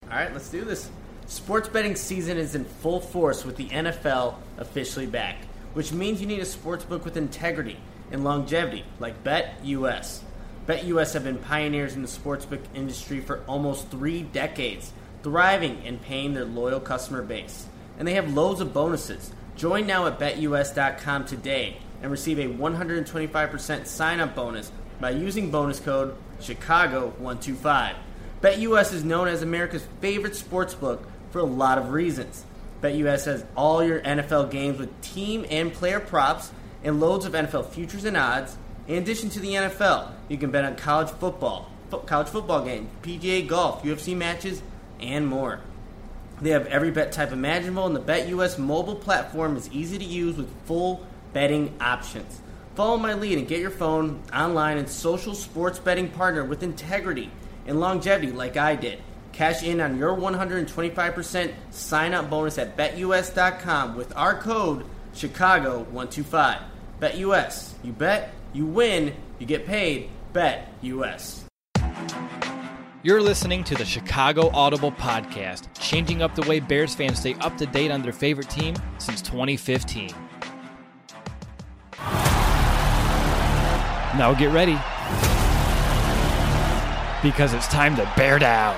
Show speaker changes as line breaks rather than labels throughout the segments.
All right, let's do this. Sports betting season is in full force with the NFL officially back, which means you need a sports book with integrity and longevity like BetUS. BetUS have been pioneers in the sportsbook industry for almost 3 decades, thriving and paying their loyal customer base. And they have loads of bonuses. Join now at BetUS.com today and receive a 125% sign-up bonus by using bonus code Chicago125. BetUS is known as America's favorite sportsbook for a lot of reasons. BetUS has all your NFL games with team and player props and loads of NFL futures and odds. In addition to the NFL, you can bet on college football games, PGA golf, UFC matches, and more. They have every bet type imaginable, and the BetUS mobile platform is easy to use with full betting options. Follow my lead and get your phone, online, and social sports betting partner with integrity and longevity like I did. Cash in on your 125% sign-up bonus at BetUS.com with our code Chicago125. BetUS. You bet, you win, you get paid. BetUS.
You're listening to the Chicago Audible Podcast, changing up the way Bears fans stay up to date on their favorite team since 2015. Now get ready, because it's time to bear down.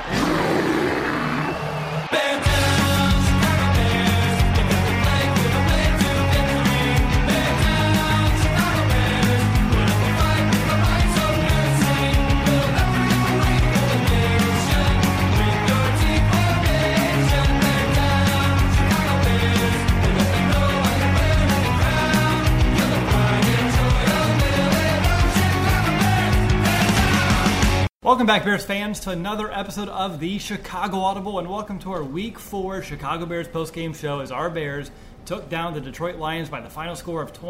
Welcome back, Bears fans, to another episode of the Chicago Audible, and welcome to our Week 4 Chicago Bears postgame show as our Bears took down the Detroit Lions by the final score of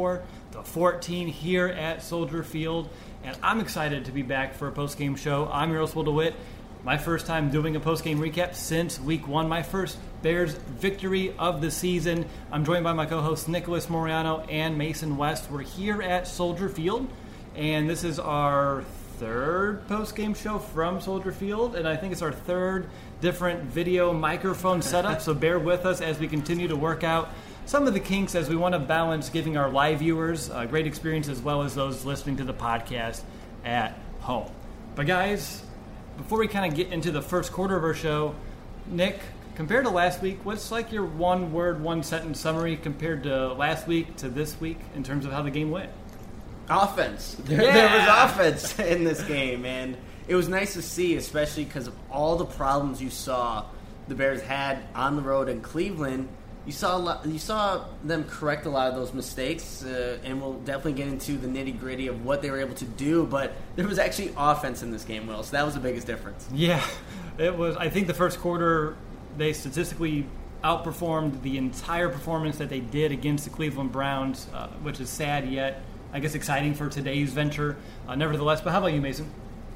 24-14 here at Soldier Field. And I'm excited to be back for a postgame show. I'm your host, Will DeWitt. My first time doing a postgame recap since Week 1, my first Bears victory of the season. I'm joined by my co-hosts Nicholas Moriano and Mason West. We're here at Soldier Field, and this is our third post-game show from Soldier Field, and I think it's our third different video microphone setup, so bear with us as we continue to work out some of the kinks as we want to balance giving our live viewers a great experience as well as those listening to the podcast at home. But guys, before we kind of get into the first quarter of our show, Nick, compared to last week, what's like your one-word, one-sentence summary compared to last week to this week in terms of how the game went?
Offense. There was offense in this game, and it was nice to see, especially because of all the problems you saw the Bears had on the road in Cleveland. You saw them correct a lot of those mistakes, and we'll definitely get into the nitty-gritty of what they were able to do, but there was actually offense in this game, Will, so that was the biggest difference.
Yeah, it was. I think the first quarter, they statistically outperformed the entire performance that they did against the Cleveland Browns, which is sad yet I guess exciting for today's venture, nevertheless. But how about you, Mason?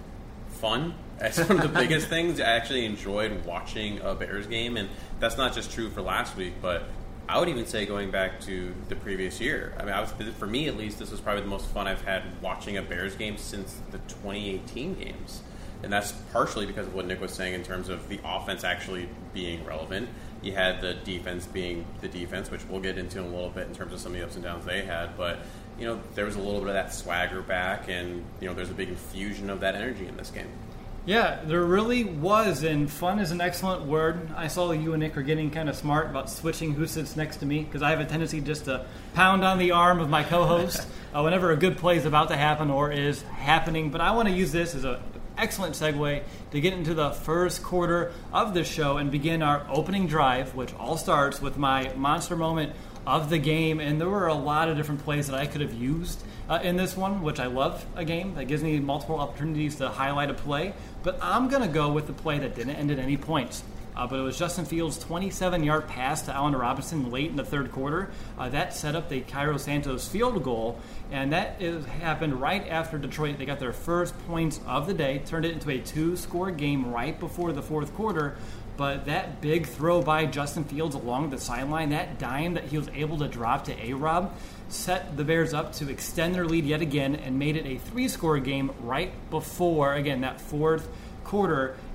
Fun. That's one of the biggest things. I actually enjoyed watching a Bears game, and that's not just true for last week, but I would even say going back to the previous year. I mean, for me at least, this was probably the most fun I've had watching a Bears game since the 2018 games. And that's partially because of what Nick was saying in terms of the offense actually being relevant. You had the defense being the defense, which we'll get into in a little bit in terms of some of the ups and downs they had, but there was a little bit of that swagger back, and there's a big infusion of that energy in this game.
Yeah, there really was, and fun is an excellent word. I saw you and Nick are getting kind of smart about switching who sits next to me, because I have a tendency just to pound on the arm of my co-host whenever a good play is about to happen or is happening. But I want to use this as an excellent segue to get into the first quarter of the show and begin our opening drive, which all starts with my monster moment of the game. And there were a lot of different plays that I could have used in this one, which I love a game that gives me multiple opportunities to highlight a play. But I'm going to go with the play that didn't end at any points. But it was Justin Fields' 27-yard pass to Allen Robinson late in the third quarter. That set up the Cairo Santos field goal, and that happened right after Detroit. They got their first points of the day, turned it into a 2-score game right before the fourth quarter. But that big throw by Justin Fields along the sideline, that dime that he was able to drop to A-Rob, set the Bears up to extend their lead yet again and made it a 3-score game right before, again, that fourth quarter.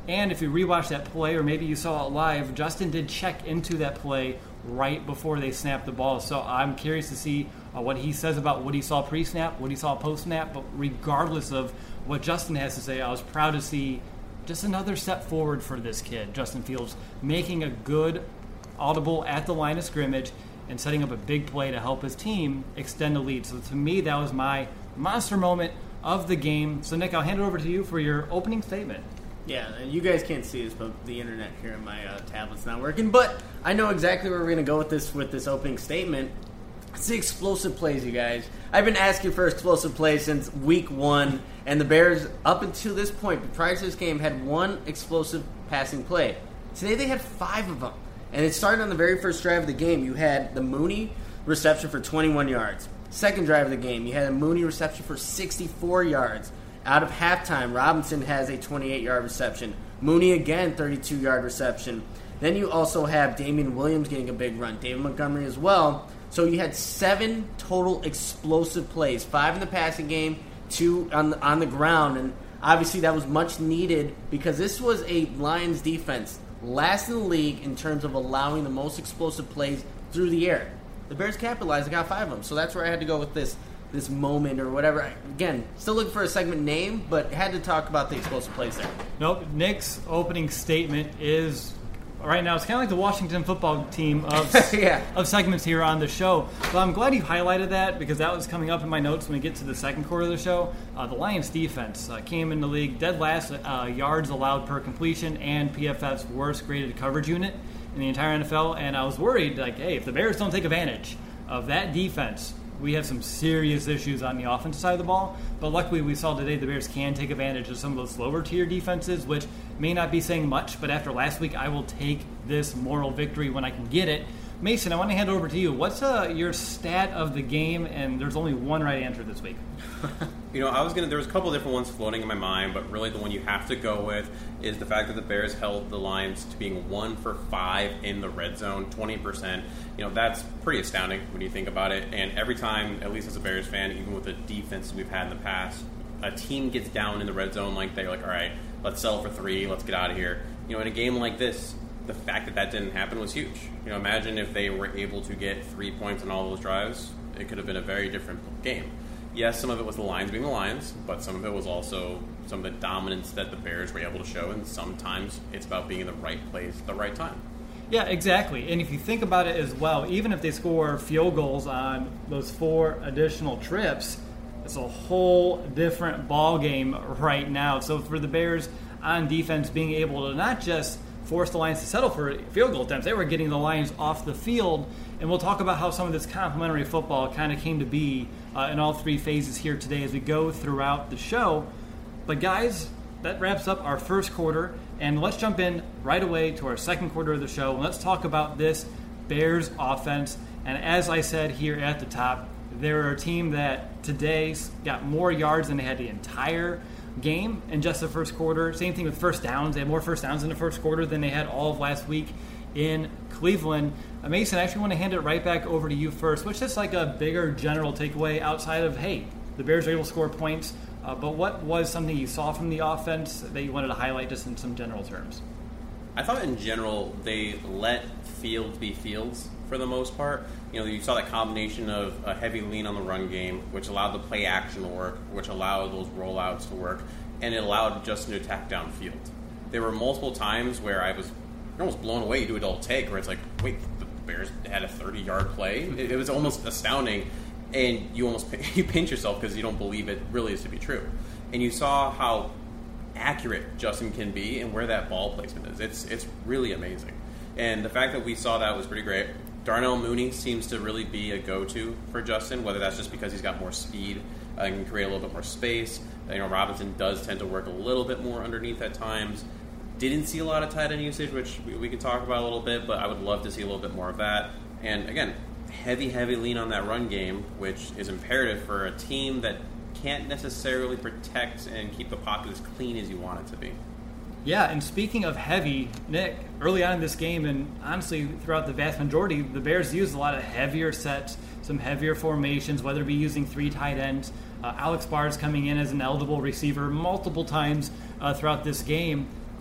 And if you rewatch that play, or maybe you saw it live, Justin did check into that play right before they snapped the ball. So I'm curious to see what he says about what he saw pre-snap, what he saw post-snap. But regardless of what Justin has to say, I was proud to see just another step forward for this kid, Justin Fields, making a good audible at the line of scrimmage and setting up a big play to help his team extend the lead. So to me, that was my monster moment of the game. So Nick, I'll hand it over to you for your opening statement.
Yeah, and you guys can't see this, but the internet here on my tablet's not working. But I know exactly where we're going to go with this opening statement. It's the explosive plays, you guys. I've been asking for explosive plays since week 1, and the Bears, up until this point, prior to this game, had one explosive passing play. Today they had 5 of them, and it started on the very first drive of the game. You had the Mooney reception for 21 yards. Second drive of the game, you had a Mooney reception for 64 yards. Out of halftime, Robinson has a 28-yard reception. Mooney again, 32-yard reception. Then you also have Damian Williams getting a big run. David Montgomery as well. So you had 7 total explosive plays, 5 in the passing game, 2 on the ground. And obviously that was much needed because this was a Lions defense last in the league in terms of allowing the most explosive plays through the air. The Bears capitalized and got 5 of them. So that's where I had to go with this moment or whatever. Again, still looking for a segment name, but had to talk about the explosive plays there.
Nope. Nick's opening statement is, right now, it's kind of like the Washington football team of of segments here on the show. But I'm glad you highlighted that because that was coming up in my notes when we get to the second quarter of the show. The Lions defense came in the league dead last yards allowed per completion and PFF's worst graded coverage unit in the entire NFL. And I was worried, like, hey, if the Bears don't take advantage of that defense, we have some serious issues on the offensive side of the ball. But luckily we saw today the Bears can take advantage of some of those lower tier defenses, which may not be saying much, but after last week I will take this moral victory when I can get it. Mason, I want to hand it over to you. What's your stat of the game? And there's only one right answer this week.
There was a couple of different ones floating in my mind, but really the one you have to go with is the fact that the Bears held the Lions to being 1 for 5 in the red zone, 20%. That's pretty astounding when you think about it. And every time, at least as a Bears fan, even with the defense we've had in the past, a team gets down in the red zone like they're like, all right, let's settle for 3, let's get out of here. In a game like this, the fact that didn't happen was huge. Imagine if they were able to get 3 points on all those drives, it could have been a very different game. Yes, some of it was the Lions being the Lions, but some of it was also some of the dominance that the Bears were able to show, and sometimes it's about being in the right place at the right time.
Yeah, exactly. And if you think about it as well, even if they score field goals on those 4 additional trips, it's a whole different ball game right now. So for the Bears on defense being able to not just force the Lions to settle for field goal attempts, they were getting the Lions off the field. And we'll talk about how some of this complementary football kind of came to be in all 3 phases here today as we go throughout the show. But guys, that wraps up our first quarter. And let's jump in right away to our second quarter of the show. And let's talk about this Bears offense. And as I said here at the top, they're a team that today got more yards than they had the entire game in just the first quarter. Same thing with first downs. They had more first downs in the first quarter than they had all of last week in Cleveland. Mason, I actually want to hand it right back over to you first. What's just like a bigger general takeaway outside of, hey, the Bears were able to score points, but what was something you saw from the offense that you wanted to highlight just in some general terms?
I thought in general they let Fields be Fields for the most part. You saw that combination of a heavy lean on the run game, which allowed the play action to work, which allowed those rollouts to work, and it allowed Justin to attack downfield. There were multiple times where I was almost blown away. You do a double take where it's like, wait, the Bears had a 30-yard play? It was almost astounding, and you pinch yourself because you don't believe it really is to be true. And you saw how accurate Justin can be and where that ball placement is. It's really amazing. And the fact that we saw that was pretty great. Darnell Mooney seems to really be a go-to for Justin, whether that's just because he's got more speed and can create a little bit more space. Robinson does tend to work a little bit more underneath at times. Didn't see a lot of tight end usage, which we could talk about a little bit, but I would love to see a little bit more of that. And again, heavy lean on that run game, which is imperative for a team that can't necessarily protect and keep the pocket as clean as you want it to be.
Yeah, and speaking of heavy, Nick, early on in this game, and honestly throughout the vast majority, the Bears used a lot of heavier sets, some heavier formations, whether it be using 3 tight ends. Alex Barr's coming in as an eligible receiver multiple times throughout this game.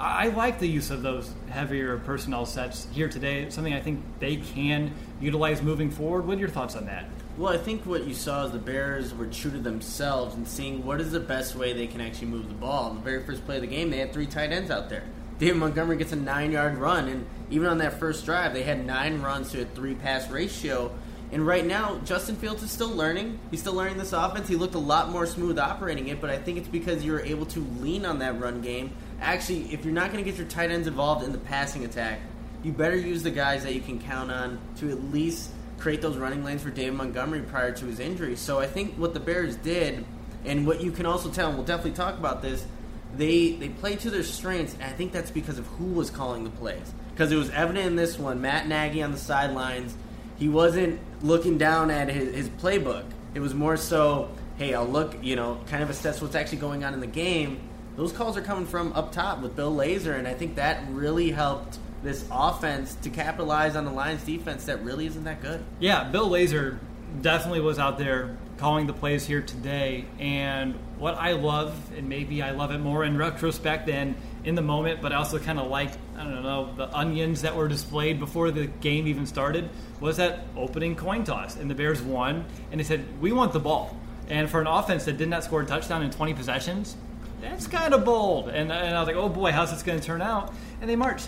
I like the use of those heavier personnel sets here today. It's something I think they can utilize moving forward. What are your thoughts on that?
Well, I think what you saw is the Bears were true to themselves and seeing what is the best way they can actually move the ball. In the very first play of the game, they had 3 tight ends out there. David Montgomery gets a 9-yard run, and even on that first drive, they had 9 runs to a 3-pass ratio. And right now, Justin Fields is still learning. He's still learning this offense. He looked a lot more smooth operating it, but I think it's because you were able to lean on that run game. Actually, if you're not going to get your tight ends involved in the passing attack, you better use the guys that you can count on to at least create those running lanes for David Montgomery prior to his injury. So I think what the Bears did, and what you can also tell, and we'll definitely talk about this, they played to their strengths, and I think that's because of who was calling the plays. Because it was evident in this one, Matt Nagy on the sidelines, he wasn't looking down at his playbook. It was more so, hey, I'll look, kind of assess what's actually going on in the game. Those calls are coming from up top with Bill Lazor, and I think that really helped this offense to capitalize on the Lions defense that really isn't that good.
Yeah, Bill Lazor definitely was out there calling the plays here today, and what I love, and maybe I love it more in retrospect than in the moment, but I also kind of like, the onions that were displayed before the game even started, was that opening coin toss, and the Bears won, and they said, we want the ball. And for an offense that did not score a touchdown in 20 possessions, that's kind of bold. And I was like, oh boy, how's this going to turn out? And they marched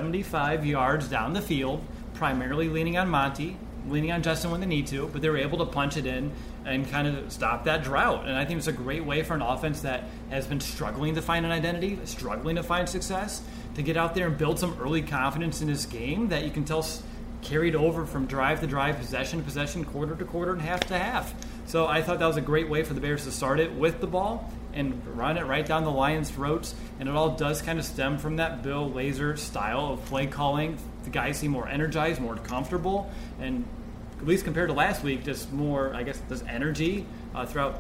75 yards down the field, primarily leaning on Monty, leaning on Justin when they need to, but they were able to punch it in and kind of stop that drought. And I think it's a great way for an offense that has been struggling to find an identity, struggling to find success, to get out there and build some early confidence in this game that you can tell carried over from drive to drive, possession to possession, quarter to quarter, and half to half. So I thought that was a great way for the Bears to start it with the ball and run it right down the Lions' throats. And it all does kind of stem from that Bill Lazor style of play calling. The guys seem more energized, more comfortable, and at least compared to last week, just more, I guess, this energy throughout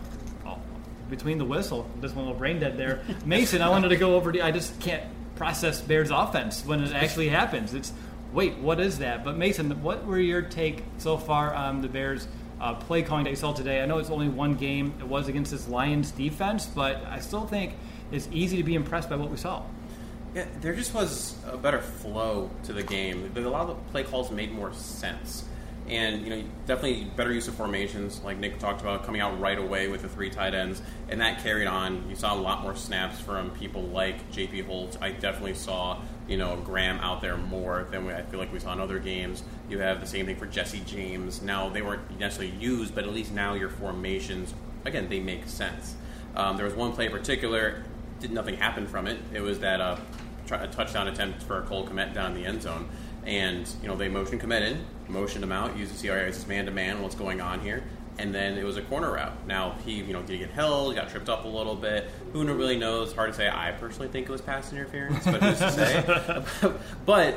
between the whistle. Just one little brain dead there. Mason, I wanted to go over I just can't process Bears offense when it actually happens. It's, wait, what is that? But Mason, what were your take so far on the Bears play calling that you saw today? I know it's only one game. It was against this Lions defense, but I still think it's easy to be impressed by what we saw.
Yeah, there just was a better flow to the game. A lot of the play calls made more sense. And, definitely better use of formations, like Nick talked about, coming out right away with the 3 tight ends. And that carried on. You saw a lot more snaps from people like J.P. Holt. I definitely saw, Graham out there more than I feel like we saw in other games. You have the same thing for Jesse James. Now, they weren't necessarily used, but at least now your formations, again, they make sense. There was one play in particular, nothing happened from it. It was that a touchdown attempt for Cole Kmet down in the end zone. And, they motioned Kmet in, motioned him out, used to see, all right, is this man-to-man, what's going on here? And then it was a corner route. Now, he, did he get held, got tripped up a little bit? Who really knows? Hard to say. I personally think it was pass interference, but who's to say? but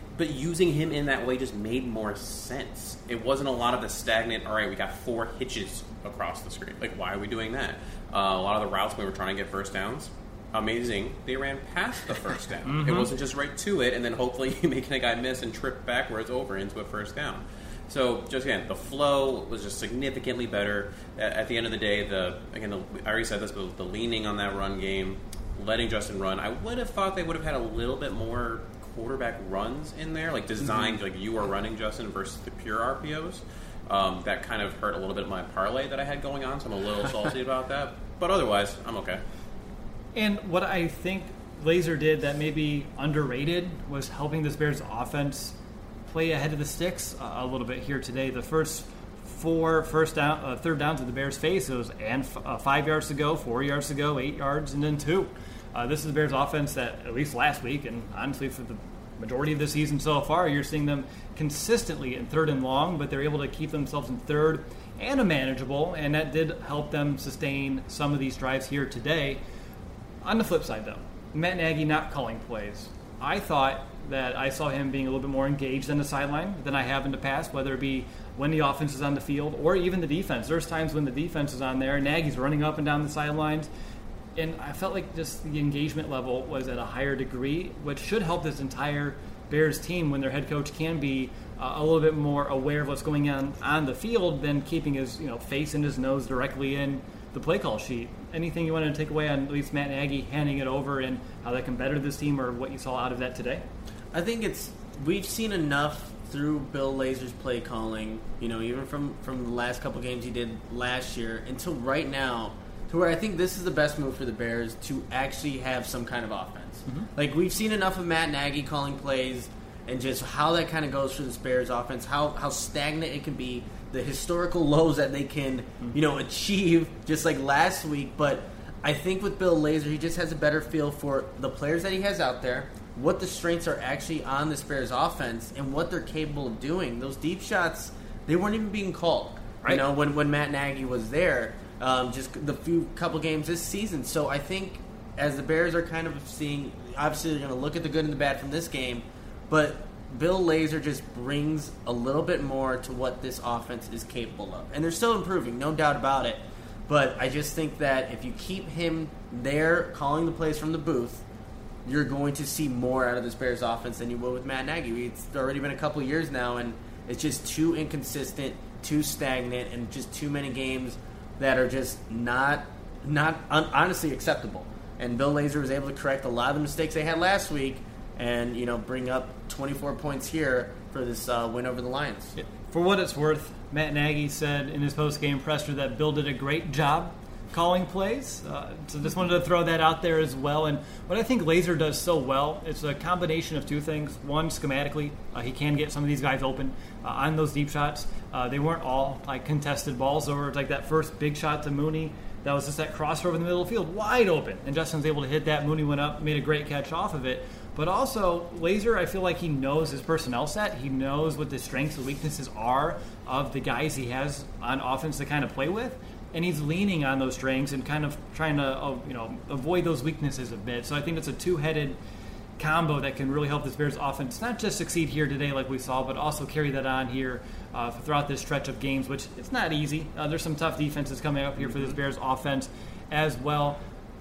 using him in that way just made more sense. It wasn't a lot of the stagnant, all right, we got 4 hitches across the screen. Like, why are we doing that? A lot of the routes we were trying to get first downs, amazing, they ran past the first down. Mm-hmm. It wasn't just right to it, and then hopefully making a guy miss and trip backwards over into a first down. So, just again, the flow was just significantly better. At the end of the day, I already said this, but the leaning on that run game, letting Justin run, I would have thought they would have had a little bit more quarterback runs in there, like designed, like you are running, Justin, versus the pure RPOs. That kind of hurt a little bit of my parlay that I had going on, so I'm a little salty about that. But otherwise, I'm okay.
And what I think Lazor did that may be underrated was helping this Bears offense play ahead of the sticks a little bit here today. The first 4 third downs of the Bears face, it was 5 yards to go, 4 yards to go, 8 yards, and then 2. This is the Bears offense that, at least last week, and honestly for the majority of the season so far, you're seeing them consistently in 3rd and long, but they're able to keep themselves in 3rd and a manageable, and that did help them sustain some of these drives here today. On the flip side, though, Matt Nagy not calling plays. I thought that I saw him being a little bit more engaged on the sideline than I have in the past, whether it be when the offense is on the field or even the defense. There's times when the defense is on there, Nagy's running up and down the sidelines, and I felt like just the engagement level was at a higher degree, which should help this entire Bears team when their head coach can be a little bit more aware of what's going on the field than keeping his face and his nose directly in the play call sheet. Anything you wanted to take away on at least Matt Nagy handing it over and how that can better this team, or what you saw out of that today?
I think we've seen enough through Bill Lazor's play calling, even from the last couple games he did last year until right now, to where I think this is the best move for the Bears to actually have some kind of offense. Mm-hmm. Like, we've seen enough of Matt Nagy calling plays and just how that kind of goes for this Bears offense, how stagnant it can be, the historical lows that they can, achieve just like last week. But I think with Bill Lazor, he just has a better feel for the players that he has out there, what the strengths are actually on this Bears offense, and what they're capable of doing. Those deep shots, they weren't even being called,
right,
when Matt Nagy was there, just the couple games this season. So I think as the Bears are kind of seeing, obviously they're going to look at the good and the bad from this game, but Bill Lazor just brings a little bit more to what this offense is capable of. And they're still improving, no doubt about it. But I just think that if you keep him there calling the plays from the booth, you're going to see more out of this Bears offense than you will with Matt Nagy. It's already been a couple of years now, and it's just too inconsistent, too stagnant, and just too many games that are just not honestly acceptable. And Bill Lazor was able to correct a lot of the mistakes they had last week and, bring up 24 points here for this win over the Lions.
For what it's worth, Matt Nagy said in his post-game presser that Bill did a great job calling plays. So just wanted to throw that out there as well. And what I think Lazor does so well, it's a combination of two things. One, schematically, he can get some of these guys open on those deep shots. They weren't all contested balls, or like that first big shot to Mooney. That was just that crossover in the middle of the field, wide open. And Justin's able to hit that. Mooney went up, made a great catch off of it. But also, Lazor, I feel like he knows his personnel set. He knows what the strengths and weaknesses are of the guys he has on offense to kind of play with. And he's leaning on those strengths and kind of trying to avoid those weaknesses a bit. So I think it's a two-headed combo that can really help this Bears offense not just succeed here today like we saw, but also carry that on here throughout this stretch of games, which it's not easy. There's some tough defenses coming up here for this Bears offense as well.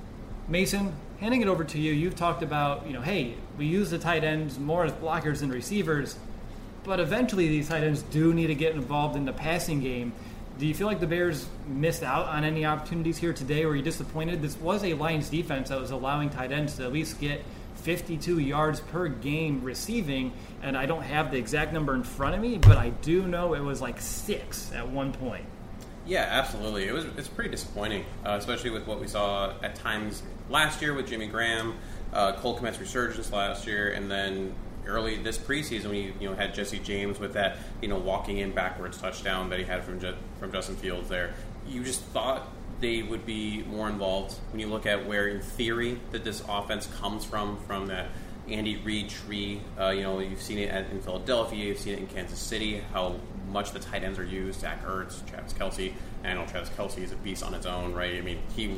Mason, handing it over to you. You've talked about, hey, we use the tight ends more as blockers and receivers, but eventually these tight ends do need to get involved in the passing game. Do you feel like the Bears missed out on any opportunities here today? Were you disappointed? This was a Lions defense that was allowing tight ends to at least get 52 yards per game receiving, and I don't have the exact number in front of me, but I do know it was like 6 at one point.
Yeah, absolutely. It's pretty disappointing, especially with what we saw at times last year with Jimmy Graham, Cole Kmet's resurgence last year, and then early this preseason when you had Jesse James with that walking in backwards touchdown that he had from Justin Fields there. You just thought they would be more involved when you look at where in theory that this offense comes from that Andy Reid tree. You've seen it in Philadelphia, you've seen it in Kansas City, how much the tight ends are used. Zach Ertz, Travis Kelce. And I know Travis Kelce is a beast on its own, right? I mean,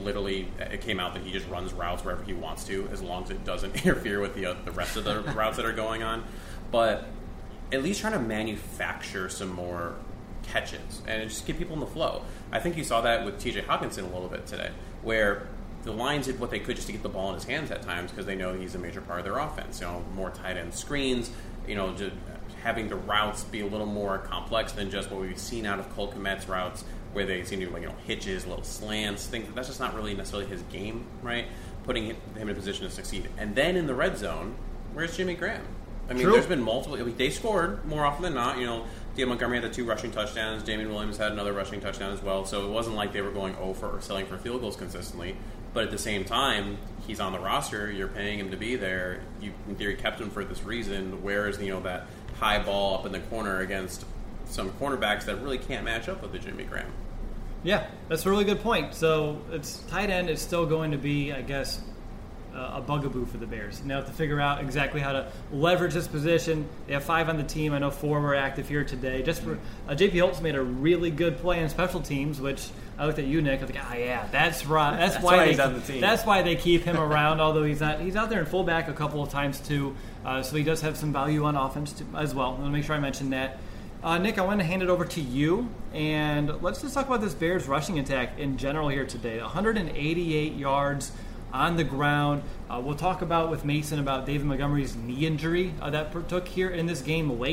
it came out that he just runs routes wherever he wants to, as long as it doesn't interfere with the rest of the routes that are going on. But at least trying to manufacture some more catches and just get people in the flow. I think you saw that with TJ Hockenson a little bit today, where the Lions did what they could just to get the ball in his hands at times because they know he's a major part of their offense. More tight end screens, just having the routes be a little more complex than just what we've seen out of Cole Kmet's routes, where they seem to do hitches, little slants, things. That's just not really necessarily his game, right? Putting him in a position to succeed. And then in the red zone, where's Jimmy Graham? I mean, There's been multiple. They scored more often than not. Dale Montgomery had the 2 rushing touchdowns. Damian Williams had another rushing touchdown as well. So it wasn't like they were going over or selling for field goals consistently. But at the same time, he's on the roster. You're paying him to be there. You, in theory, kept him for this reason. Where is that high ball up in the corner against some cornerbacks that really can't match up with the Jimmy Graham?
Yeah, that's a really good point. So it's tight end is still going to be, I guess, a bugaboo for the Bears. Now have to figure out exactly how to leverage this position. They have 5 on the team. I know 4 were active here today. Just for J.P. Holtz made a really good play in special teams, which I looked at you, Nick. I was like, yeah, that's right. That's why
he's on the team.
That's why they keep him around. Although he's not, he's out there in fullback a couple of times too. So he does have some value on offense too, as well. I want to make sure I mention that. Nick, I want to hand it over to you, and let's just talk about this Bears rushing attack in general here today. 188 yards on the ground. We'll talk about with Mason about David Montgomery's knee injury that took here in this game late.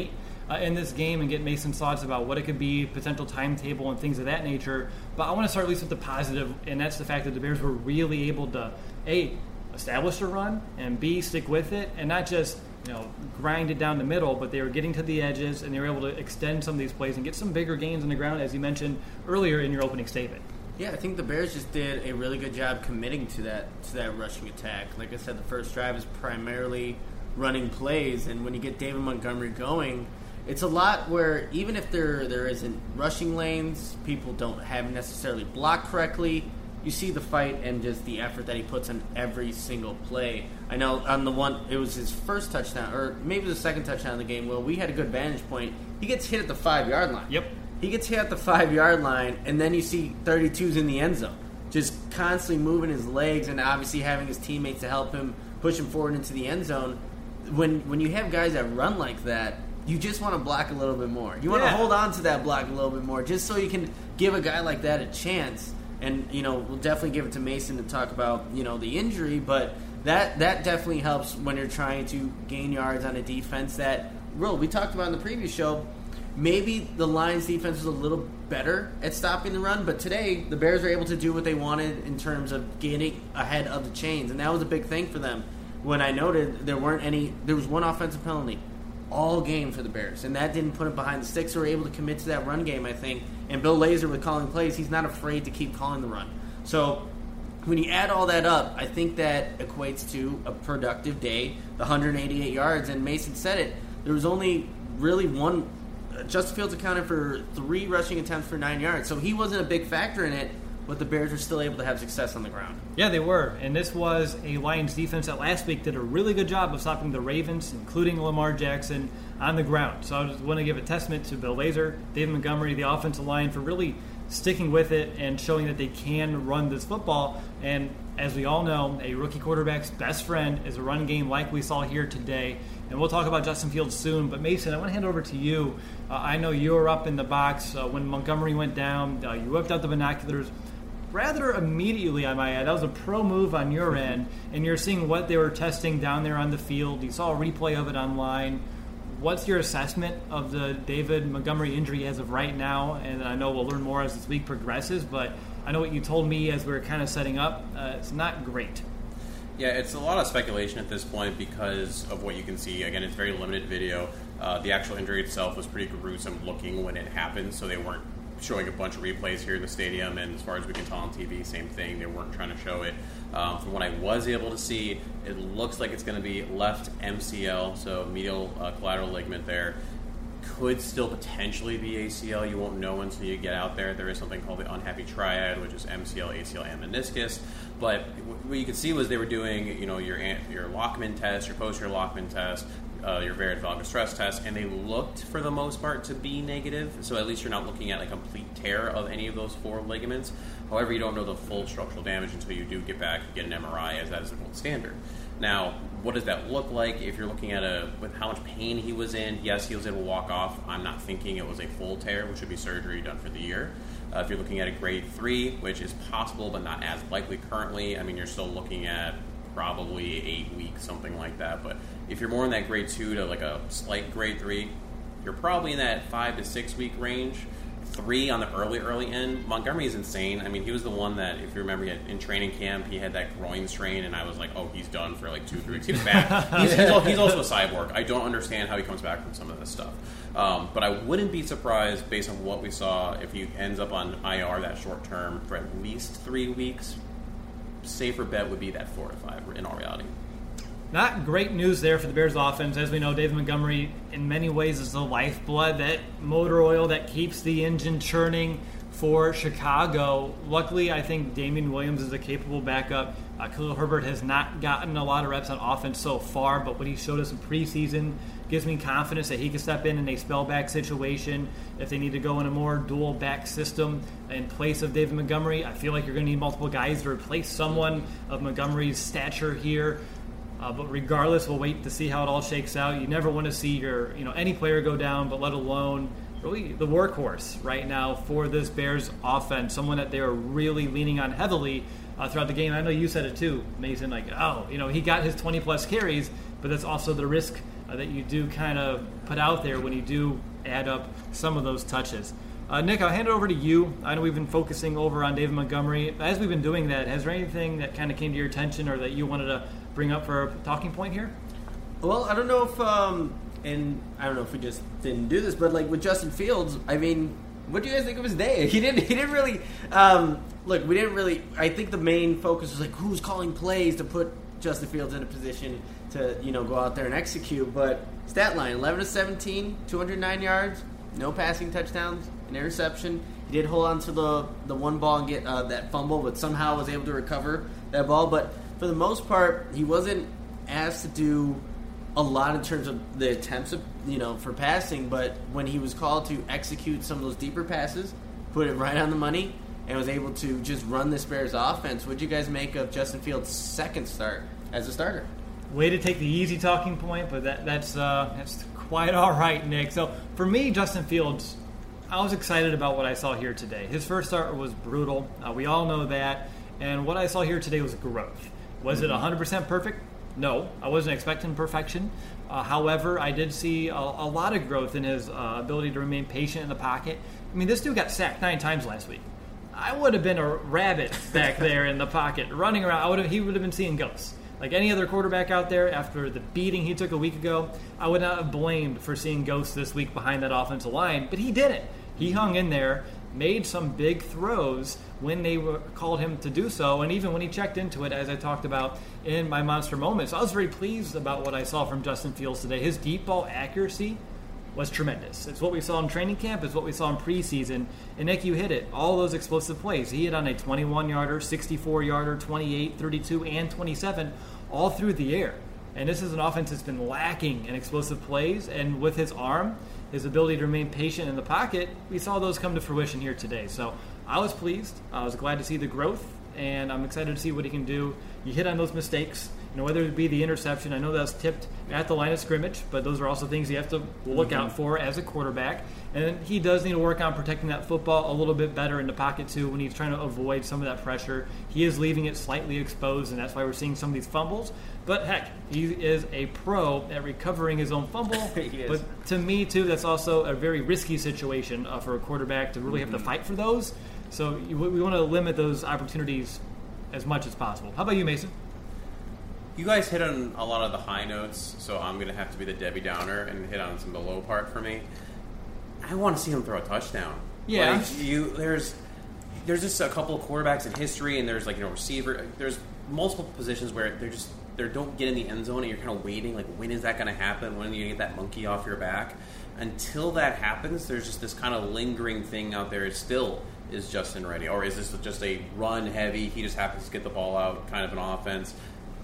in this game and get Mason's thoughts about what it could be, potential timetable and things of that nature. But I want to start at least with the positive, and that's the fact that the Bears were really able to, A, establish a run, and B, stick with it, and not just grind it down the middle, but they were getting to the edges, and they were able to extend some of these plays and get some bigger gains on the ground, as you mentioned earlier in your opening statement.
Yeah, I think the Bears just did a really good job committing to that rushing attack. Like I said, the first drive is primarily running plays, and when you get David Montgomery going, it's a lot where even if there isn't rushing lanes, people don't have necessarily blocked correctly, you see the fight and just the effort that he puts on every single play. I know on the one, it was his first touchdown, or maybe the second touchdown of the game, we had a good vantage point. He gets hit at the 5-yard line.
Yep.
He gets hit at the 5-yard line, and then you see 32's in the end zone, just constantly moving his legs and obviously having his teammates to help him push him forward into the end zone. When you have guys that run like that, you just want to block a little bit more. You want to hold on to that block a little bit more just so you can give a guy like that a chance. And, we'll definitely give it to Mason to talk about, the injury, but that definitely helps when you're trying to gain yards on a defense that, we talked about in the previous show, maybe the Lions defense was a little better at stopping the run, but today the Bears were able to do what they wanted in terms of getting ahead of the chains, and that was a big thing for them. When I noted there was one offensive penalty all game for the Bears, and that didn't put it behind the sticks. They were able to commit to that run game, I think, and Bill Lazor with calling plays, he's not afraid to keep calling the run. So when you add all that up, I think that equates to a productive day, the 188 yards, and Mason said it, there was only really one. Justin Fields accounted for 3 rushing attempts for 9 yards, so he wasn't a big factor in it, but the Bears were still able to have success on the ground.
Yeah, they were, and this was a Lions defense that last week did a really good job of stopping the Ravens, including Lamar Jackson, on the ground. So I just want to give a testament to Bill Lazor, David Montgomery, the offensive line, for really sticking with it and showing that they can run this football. And as we all know, a rookie quarterback's best friend is a run game like we saw here today. And we'll talk about Justin Fields soon. But Mason, I want to hand over to you. I know you were up in the box when Montgomery went down. You whipped out the binoculars rather immediately, I might add. That was a pro move on your end. And you're seeing what they were testing down there on the field. You saw a replay of it online. What's your assessment of the David Montgomery injury as of right now? And I know we'll learn more as this week progresses, but I know what you told me as we were kind of setting up. It's not great.
Yeah, it's a lot of speculation at this point because of what you can see. Again, it's very limited video. The actual injury itself was pretty gruesome looking when it happened, so they weren't showing a bunch of replays here in the stadium, and as far as we can tell on TV, same thing. They weren't trying to show it. From what I was able to see, it looks like it's going to be left MCL, so medial collateral ligament there. Could still potentially be ACL. You won't know until you get out there. There is something called the unhappy triad, which is MCL, ACL, and meniscus. But what you could see was they were doing, your Lockman test, your posterior Lockman test, your variant valgus stress test, and they looked for the most part to be negative. So at least you're not looking at a complete tear of any of those 4 ligaments. However, you don't know the full structural damage until you do get back and get an MRI, as that is the gold standard. Now, what does that look like if you're looking at with how much pain he was in? Yes, he was able to walk off. I'm not thinking it was a full tear, which would be surgery done for the year. If you're looking at a grade 3, which is possible but not as likely currently, you're still looking at probably 8 weeks, something like that. But if you're more in that grade 2 to a slight grade 3, you're probably in that 5 to 6 week range. 3 on the early end. Montgomery is insane. He was the one that, if you remember, in training camp, he had that groin strain, and I was like, oh, he's done for 2-3 weeks. He was back. He's also a cyborg. I don't understand how he comes back from some of this stuff. But I wouldn't be surprised, based on what we saw, if he ends up on IR that short term for at least 3 weeks. Safer bet would be that 4 to 5 in all reality.
Not great news there for the Bears offense. As we know, David Montgomery, in many ways, is the lifeblood, that motor oil that keeps the engine churning for Chicago. Luckily, I think Damian Williams is a capable backup. Khalil Herbert has not gotten a lot of reps on offense so far, but what he showed us in preseason gives me confidence that he can step in a spellback situation. If they need to go in a more dual back system in place of David Montgomery, I feel like you're going to need multiple guys to replace someone of Montgomery's stature here. But regardless, we'll wait to see how it all shakes out. You never want to see your, any player go down, but let alone really the workhorse right now for this Bears offense, someone that they are really leaning on heavily throughout the game. I know you said it too, Mason, he got his 20-plus carries, but that's also the risk that you do kind of put out there when you do add up some of those touches. Nick, I'll hand it over to you. I know we've been focusing over on David Montgomery. As we've been doing that, has there anything that kind of came to your attention or that you wanted to bring up for a talking point here?
Well, I don't know if, and I don't know if we just didn't do this, but like with Justin Fields, I mean, what do you guys think of his day? He didn't really, look, we didn't really, I think the main focus was like who's calling plays to put Justin Fields in a position to, go out there and execute. But stat line, 11 of 17, 209 yards, no passing touchdowns, an interception. He did hold on to the one ball and get that fumble, but somehow was able to recover that ball. But for the most part, he wasn't asked to do a lot in terms of the attempts of, for passing, but when he was called to execute some of those deeper passes, put it right on the money, and was able to just run this Bears offense. What'd you guys make of Justin Fields' second start as a starter?
Way to take the easy talking point, but that's quite all right, Nick. So for me, Justin Fields, I was excited about what I saw here today. His first start was brutal. We all know that. And what I saw here today was growth. Was it 100% perfect? No, I wasn't expecting perfection. However, I did see a lot of growth in his ability to remain patient in the pocket. I mean, this dude got sacked 9 times last week. I would have been a rabbit back there in the pocket, running around. He would have been seeing ghosts. Like any other quarterback out there, after the beating he took a week ago, I would not have blamed for seeing ghosts this week behind that offensive line, but he didn't. He hung in there, made some big throws when they called him to do so, and even when he checked into it, as I talked about in my monster moments. I was very pleased about what I saw from Justin Fields today. His deep ball accuracy was tremendous. It's what we saw in training camp. It's what we saw in preseason. And Nick, you hit it. All those explosive plays. He hit on a 21-yarder, 64-yarder, 28, 32, and 27, all through the air. And this is an offense that's been lacking in explosive plays. And with his arm, his ability to remain patient in the pocket, we saw those come to fruition here today. So I was pleased. I was glad to see the growth, and I'm excited to see what he can do. You hit on those mistakes, whether it be the interception. I know that was tipped at the line of scrimmage, but those are also things you have to look out for as a quarterback. And he does need to work on protecting that football a little bit better in the pocket, too, when he's trying to avoid some of that pressure. He is leaving it slightly exposed, and that's why we're seeing some of these fumbles. But, heck, he is a pro at recovering his own fumble. But to me, too, that's also a very risky situation for a quarterback to really have to fight for those. So we want to limit those opportunities as much as possible. How about you, Mason?
You guys hit on a lot of the high notes, so I'm going to have to be the Debbie Downer and hit on some of the low part for me. I want to see him throw a touchdown.
Yeah.
There's just a couple of quarterbacks in history, and there's receiver. There's multiple positions where they don't get in the end zone, and you're kind of waiting, like, when is that going to happen? When do you get that monkey off your back? Until that happens, there's just this kind of lingering thing out there. Is Justin ready? Or is this just a run heavy, he just happens to get the ball out kind of an offense?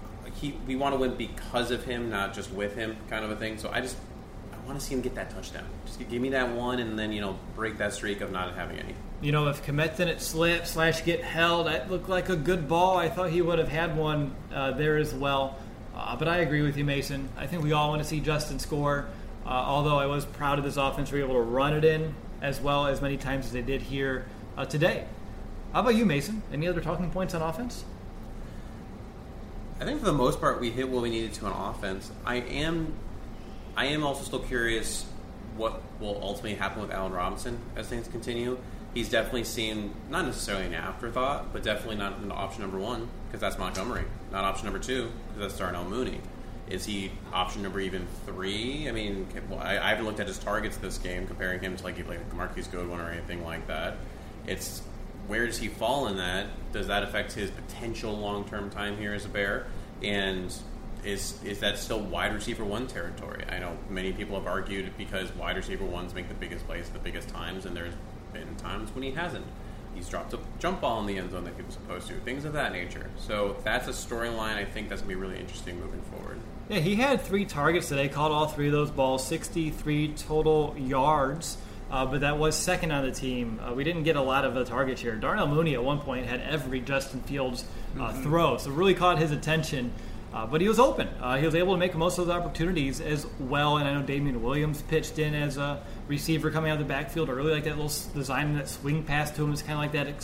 We want to win because of him, not just with him kind of a thing. So I want to see him get that touchdown. Just give me that one and then, break that streak of not having any.
If Kmet didn't slip / get held, that looked like a good ball. I thought he would have had one there as well. But I agree with you, Mason. I think we all want to see Justin score. Although I was proud of this offense, we were able to run it in as well as many times as they did here today. How about you, Mason? Any other talking points on offense?
I think for the most part we hit what we needed to on offense. I am also still curious what will ultimately happen with Allen Robinson as things continue. He's definitely seen, not necessarily an afterthought, but definitely not an option number 1, because that's Montgomery. Not option number 2, because that's Darnell Mooney. Is he option number even 3? I mean, I haven't looked at his targets this game, comparing him to like Marquise Goodwin or anything like that. It's where does he fall in that? Does that affect his potential long-term time here as a Bear? And is that still wide receiver 1 territory? I know many people have argued because wide receiver 1s make the biggest plays at the biggest times, and there's been times when he hasn't. He's dropped a jump ball in the end zone that he was supposed to. Things of that nature. So that's a storyline I think that's going to be really interesting moving forward.
Yeah, he had 3 targets today, caught all 3 of those balls, 63 total yards, but that was second on the team. We didn't get a lot of the target share. Darnell Mooney at one point had every Justin Fields throw, so really caught his attention. But he was open. He was able to make most of those opportunities as well, and I know Damian Williams pitched in as a receiver coming out of the backfield. I really like that little design, that swing pass to him. It's kind of like that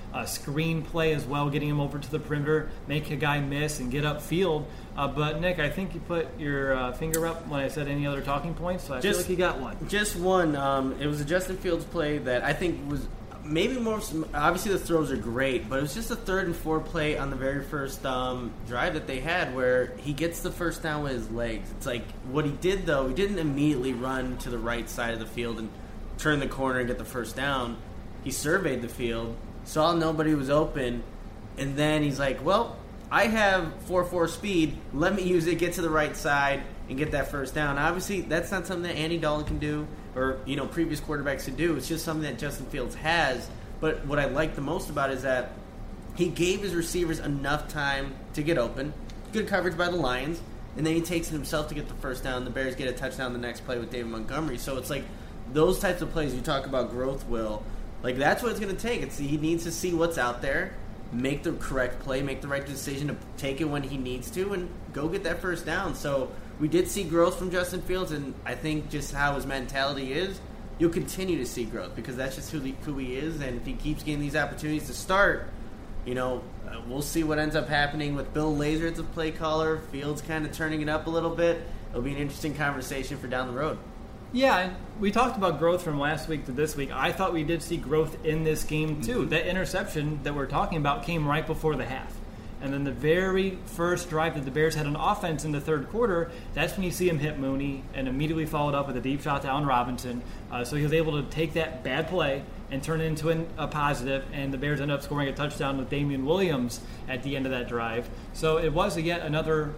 screen play as well, getting him over to the perimeter, make a guy miss and get upfield. But Nick, I think you put your finger up when I said any other talking points, so I feel like you got one.
Just one. It was a Justin Fields play that I think was maybe more. Obviously, the throws are great, but it was just a 3rd and 4 play on the very first drive that they had where he gets the first down with his legs. It's like what he did, though. He didn't immediately run to the right side of the field and turn the corner and get the first down. He surveyed the field, saw nobody was open, and then he's like, well, I have 4.4 speed. Let me use it, get to the right side, and get that first down. Obviously, that's not something that Andy Dalton can do or previous quarterbacks can do. It's just something that Justin Fields has. But what I like the most about it is that he gave his receivers enough time to get open. Good coverage by the Lions. And then he takes it himself to get the first down. The Bears get a touchdown the next play with David Montgomery. So it's like those types of plays you talk about growth, Will. Like that's what it's going to take. He needs to see what's out there, make the correct play, make the right decision to take it when he needs to, and go get that first down. So we did see growth from Justin Fields, and I think just how his mentality is, you'll continue to see growth because that's just who he is. And if he keeps getting these opportunities to start, we'll see what ends up happening with Bill Lazor as a play caller. Fields kind of turning it up a little bit. It'll be an interesting conversation for down the road.
Yeah, and we talked about growth from last week to this week. I thought we did see growth in this game, too. Mm-hmm. That interception that we're talking about came right before the half. And then the very first drive that the Bears had on offense in the third quarter, that's when you see him hit Mooney and immediately followed up with a deep shot to Allen Robinson. So he was able to take that bad play and turn it into a positive, and the Bears ended up scoring a touchdown with Damian Williams at the end of that drive. So it was yet another,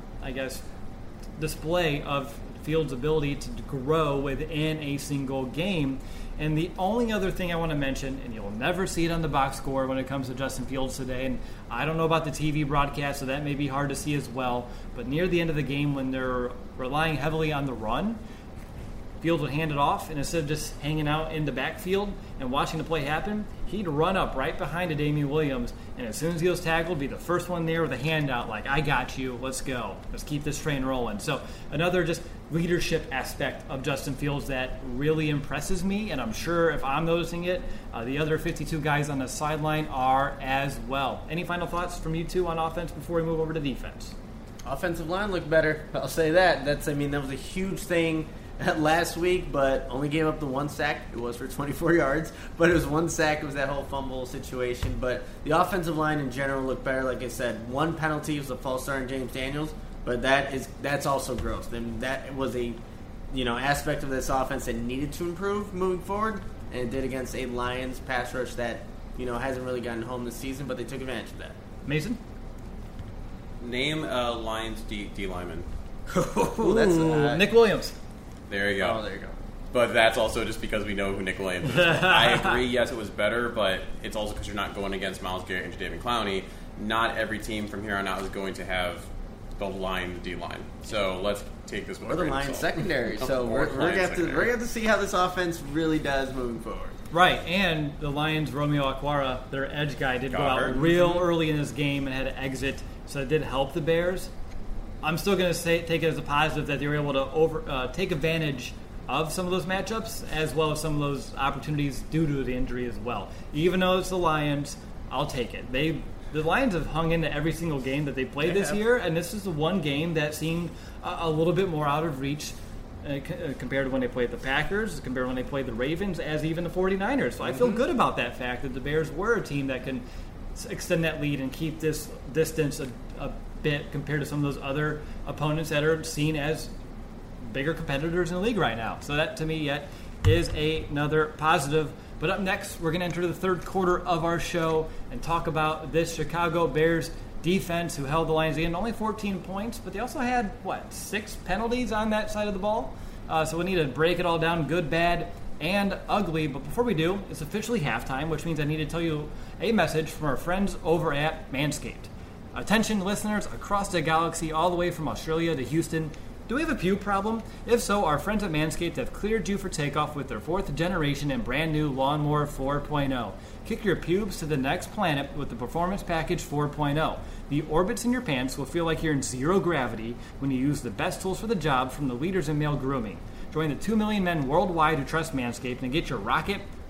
display of Fields' ability to grow within a single game. And the only other thing I want to mention, and you'll never see it on the box score when it comes to Justin Fields today, and I don't know about the TV broadcast, so that may be hard to see as well, but near the end of the game when they're relying heavily on the run, Fields would hand it off, and instead of just hanging out in the backfield and watching the play happen, he'd run up right behind a Damian Williams, and as soon as he was tackled, be the first one there with a handout like, I got you, let's go. Let's keep this train rolling. So another just leadership aspect of Justin Fields that really impresses me, and I'm sure if I'm noticing it, the other 52 guys on the sideline are as well. Any final thoughts from you two on offense before we move over to defense?
Offensive line looked better. I'll say that. That was a huge thing last week, but only gave up the one sack. It was for 24 yards, but it was one sack. It was that whole fumble situation. But the offensive line in general looked better. Like I said, one penalty was a false start in James Daniels, but that's also gross. And that was a aspect of this offense that needed to improve moving forward, and it did against a Lions pass rush that hasn't really gotten home this season, but they took advantage of that.
Mason?
Name a Lions D lineman.
That's
Nick Williams.
There you go.
Oh, there you go.
But that's also just because we know who Nick Williams is. I agree, yes, it was better, but it's also because you're not going against Myles Garrett and Jadeveon Clowney. Not every team from here on out is going to have the line, the D-line. So let's take this one.
Or the Lions secondary. So we're going to have to see how this offense really does moving forward.
Right, and the Lions' Romeo Okwara, their edge guy, did go out real early in this game and had to exit, so it did help the Bears. I'm still going to take it as a positive that they were able to take advantage of some of those matchups as well as some of those opportunities due to the injury as well. Even though it's the Lions, I'll take it. The Lions have hung into every single game that they played this year, and this is the one game that seemed a little bit more out of reach compared to when they played the Packers, compared to when they played the Ravens, as even the 49ers. So I feel good about that fact that the Bears were a team that can extend that lead and keep this distance a bit compared to some of those other opponents that are seen as bigger competitors in the league right now. So that, to me, yet is another positive. But up next, we're going to enter the third quarter of our show and talk about this Chicago Bears defense who held the Lions in only 14 points, but they also had, 6 penalties on that side of the ball? So we need to break it all down, good, bad, and ugly. But before we do, it's officially halftime, which means I need to tell you a message from our friends over at Manscaped. Attention listeners across the galaxy, all the way from Australia to Houston. Do we have a pube problem? If so, our friends at Manscaped have cleared you for takeoff with their 4th generation and brand new Lawnmower 4.0. Kick your pubes to the next planet with the Performance Package 4.0. The orbits in your pants will feel like you're in zero gravity when you use the best tools for the job from the leaders in male grooming. Join the 2 million men worldwide who trust Manscaped and get your rocket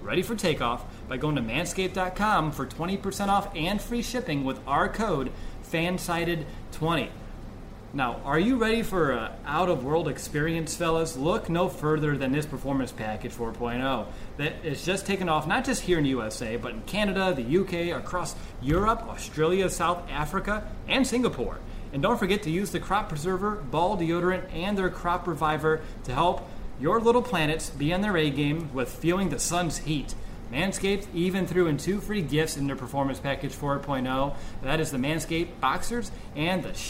ready for takeoff by going to manscaped.com for 20% off and free shipping with our code FANSIDED20. Now, are you ready for an out-of-world experience, fellas? Look no further than this Performance Package 4.0 that is just taken off, not just here in the USA, but in Canada, the UK, across Europe, Australia, South Africa, and Singapore. And don't forget to use the Crop Preserver, Ball Deodorant, and their Crop Reviver to help your little planets be on their A-game with feeling the sun's heat. Manscaped even threw in 2 free gifts in their Performance Package 4.0. That is the Manscaped Boxers and the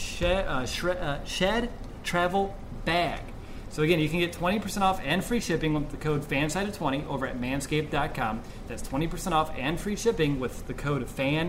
Shed Travel Bag. So again, you can get 20% off and free shipping with the code FANSIDED20 over at manscaped.com. That's 20% off and free shipping with the code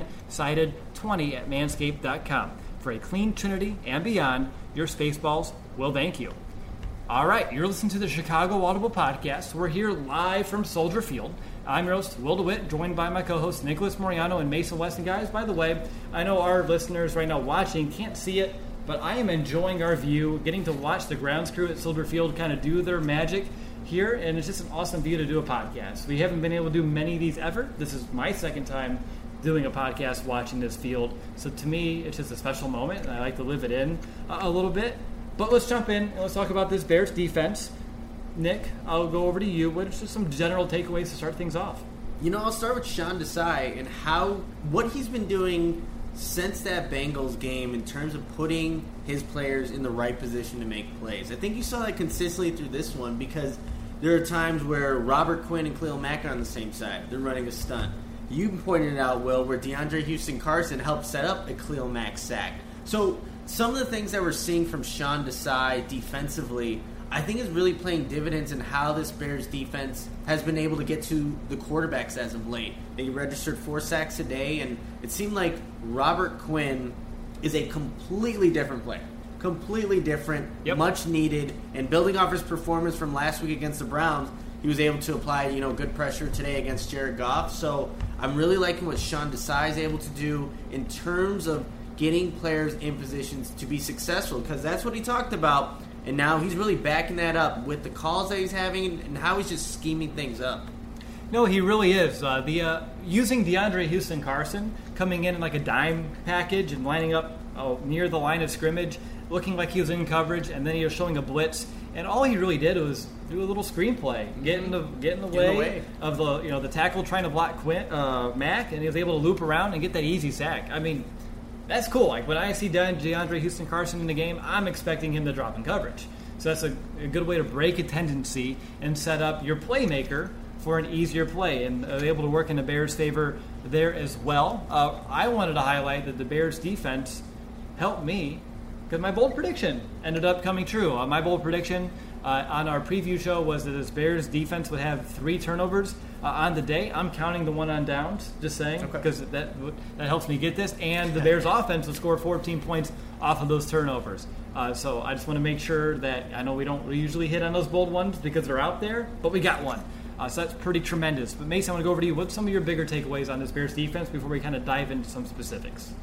FANSIDED20 at manscaped.com. For a clean trinity and beyond, your Spaceballs will thank you. All right, you're listening to the Chicago Audible Podcast. We're here live from Soldier Field. I'm your host, Will DeWitt, joined by my co-hosts Nicholas Moriano and Mason West. And guys, by the way, I know our listeners right now watching can't see it, but I am enjoying our view, getting to watch the grounds crew at Soldier Field kind of do their magic here, and it's just an awesome view to do a podcast. We haven't been able to do many of these ever. This is my second time doing a podcast watching this field, so to me, it's just a special moment, and I like to live it in a little bit. But let's jump in and let's talk about this Bears defense. Nick, I'll go over to you. What are just some general takeaways to start things off?
I'll start with Sean Desai and what he's been doing since that Bengals game in terms of putting his players in the right position to make plays. I think you saw that consistently through this one because there are times where Robert Quinn and Khalil Mack are on the same side. They're running a stunt. You pointed it out, Will, where DeAndre Houston-Carson helped set up a Khalil Mack sack. So some of the things that we're seeing from Sean Desai defensively, I think is really playing dividends in how this Bears defense has been able to get to the quarterbacks as of late. They registered 4 sacks a day, and it seemed like Robert Quinn is a completely different player. Completely different, much needed, and building off his performance from last week against the Browns, he was able to apply, good pressure today against Jared Goff. So I'm really liking what Sean Desai is able to do in terms of getting players in positions to be successful, because that's what he talked about. And now he's really backing that up with the calls that he's having and how he's just scheming things up.
No, he really is. Using DeAndre Houston-Carson, coming in like a dime package and lining up near the line of scrimmage, looking like he was in coverage, and then he was showing a blitz. And all he really did was do a little screenplay, get in the way of the tackle trying to block Mack, and he was able to loop around and get that easy sack. I mean, that's cool. Like when I see DeAndre Houston-Carson in the game, I'm expecting him to drop in coverage. So that's a good way to break a tendency and set up your playmaker for an easier play, and able to work in the Bears' favor there as well. I wanted to highlight that the Bears' defense helped me because my bold prediction ended up coming true. My bold prediction on our preview show was that this Bears defense would have 3 turnovers on the day. I'm counting the one on downs, just saying, because that helps me get this. And the Bears offense would score 14 points off of those turnovers. So I just want to make sure that I know we don't usually hit on those bold ones because they're out there, but we got one. So that's pretty tremendous. But Mason, I want to go over to you. What's some of your bigger takeaways on this Bears defense before we kind of dive into some specifics?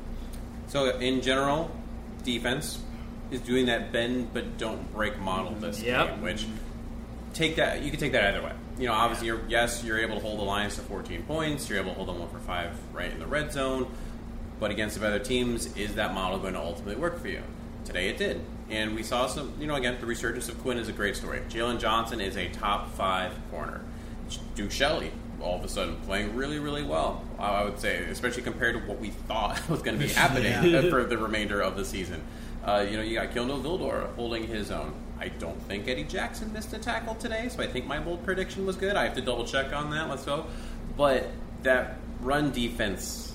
So in general, defense is doing that bend but don't break model this game, which you can take that either way. Obviously, you're able to hold the Lions to 14 points. You're able to hold them 1 for 5 right in the red zone. But against the other teams, is that model going to ultimately work for you? Today it did. And we saw some, again, the resurgence of Quinn is a great story. Jalen Johnson is a top 5 corner. Duke Shelley, all of a sudden, playing really, really well, I would say, especially compared to what we thought was going to be happening for the remainder of the season. You got Gilno Vildor holding his own. I don't think Eddie Jackson missed a tackle today, so I think my bold prediction was good. I have to double check on that. Let's go. But that run defense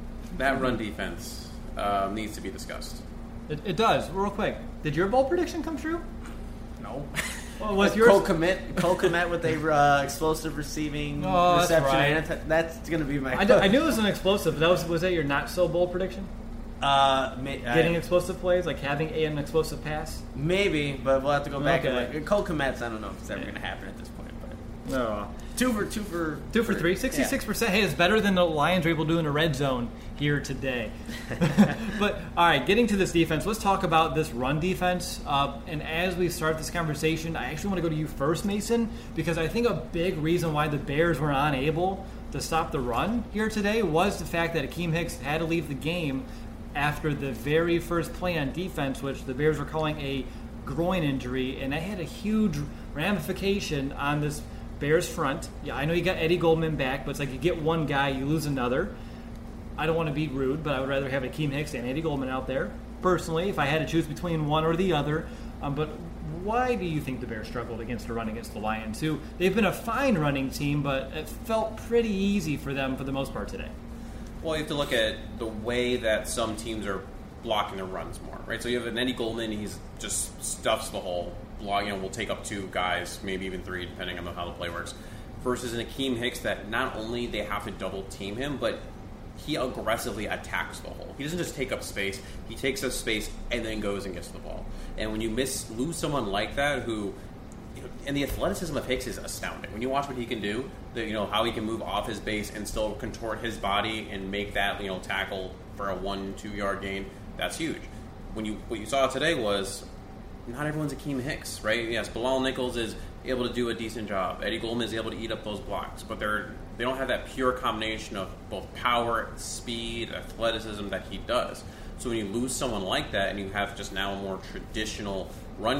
needs to be discussed.
It does. Real quick, did your bold prediction come true?
No.
Well, was yours?
Cole Kmet with a explosive receiving reception.
That's right.
That's going to be my.
I knew it was an explosive. But was that your not so bold prediction? Getting explosive plays, like having an explosive pass?
Maybe, but we'll have to go back and Cole Kmet's, I don't know if it's ever going to happen at this point.
No.
Two for three.
66%. Hey, it's better than the Lions were able to do in a red zone here today. But, all right, getting to this defense, let's talk about this run defense. And as we start this conversation, I actually want to go to you first, Mason, because I think a big reason why the Bears were unable to stop the run here today was the fact that Akeem Hicks had to leave the game after the very first play on defense, which the Bears were calling a groin injury, and that had a huge ramification on this Bears front. Yeah, I know you got Eddie Goldman back, but it's like you get one guy, you lose another. I don't want to be rude, but I would rather have Akeem Hicks and Eddie Goldman out there, personally, if I had to choose between one or the other. But why do you think the Bears struggled against the run against the Lions, who they've been a fine running team, but it felt pretty easy for them for the most part today?
Well, you have to look at the way that some teams are blocking their runs more, right? So you have an Eddie Goldman, he's just stuffs the hole. Will take up 2 guys, maybe even 3, depending on how the play works. Versus an Akeem Hicks that not only they have to double team him, but he aggressively attacks the hole. He doesn't just take up space; he takes up space and then goes and gets the ball. And when you lose someone like that, who, and the athleticism of Hicks is astounding. When you watch what he can do, how he can move off his base and still contort his body and make that tackle for a 1-2 yard gain, that's huge. What you saw today was, not everyone's Akeem Hicks, right? Yes, Bilal Nichols is able to do a decent job. Eddie Goldman is able to eat up those blocks, but they don't have that pure combination of both power, speed, athleticism that he does. So when you lose someone like that, and you have just now a more traditional run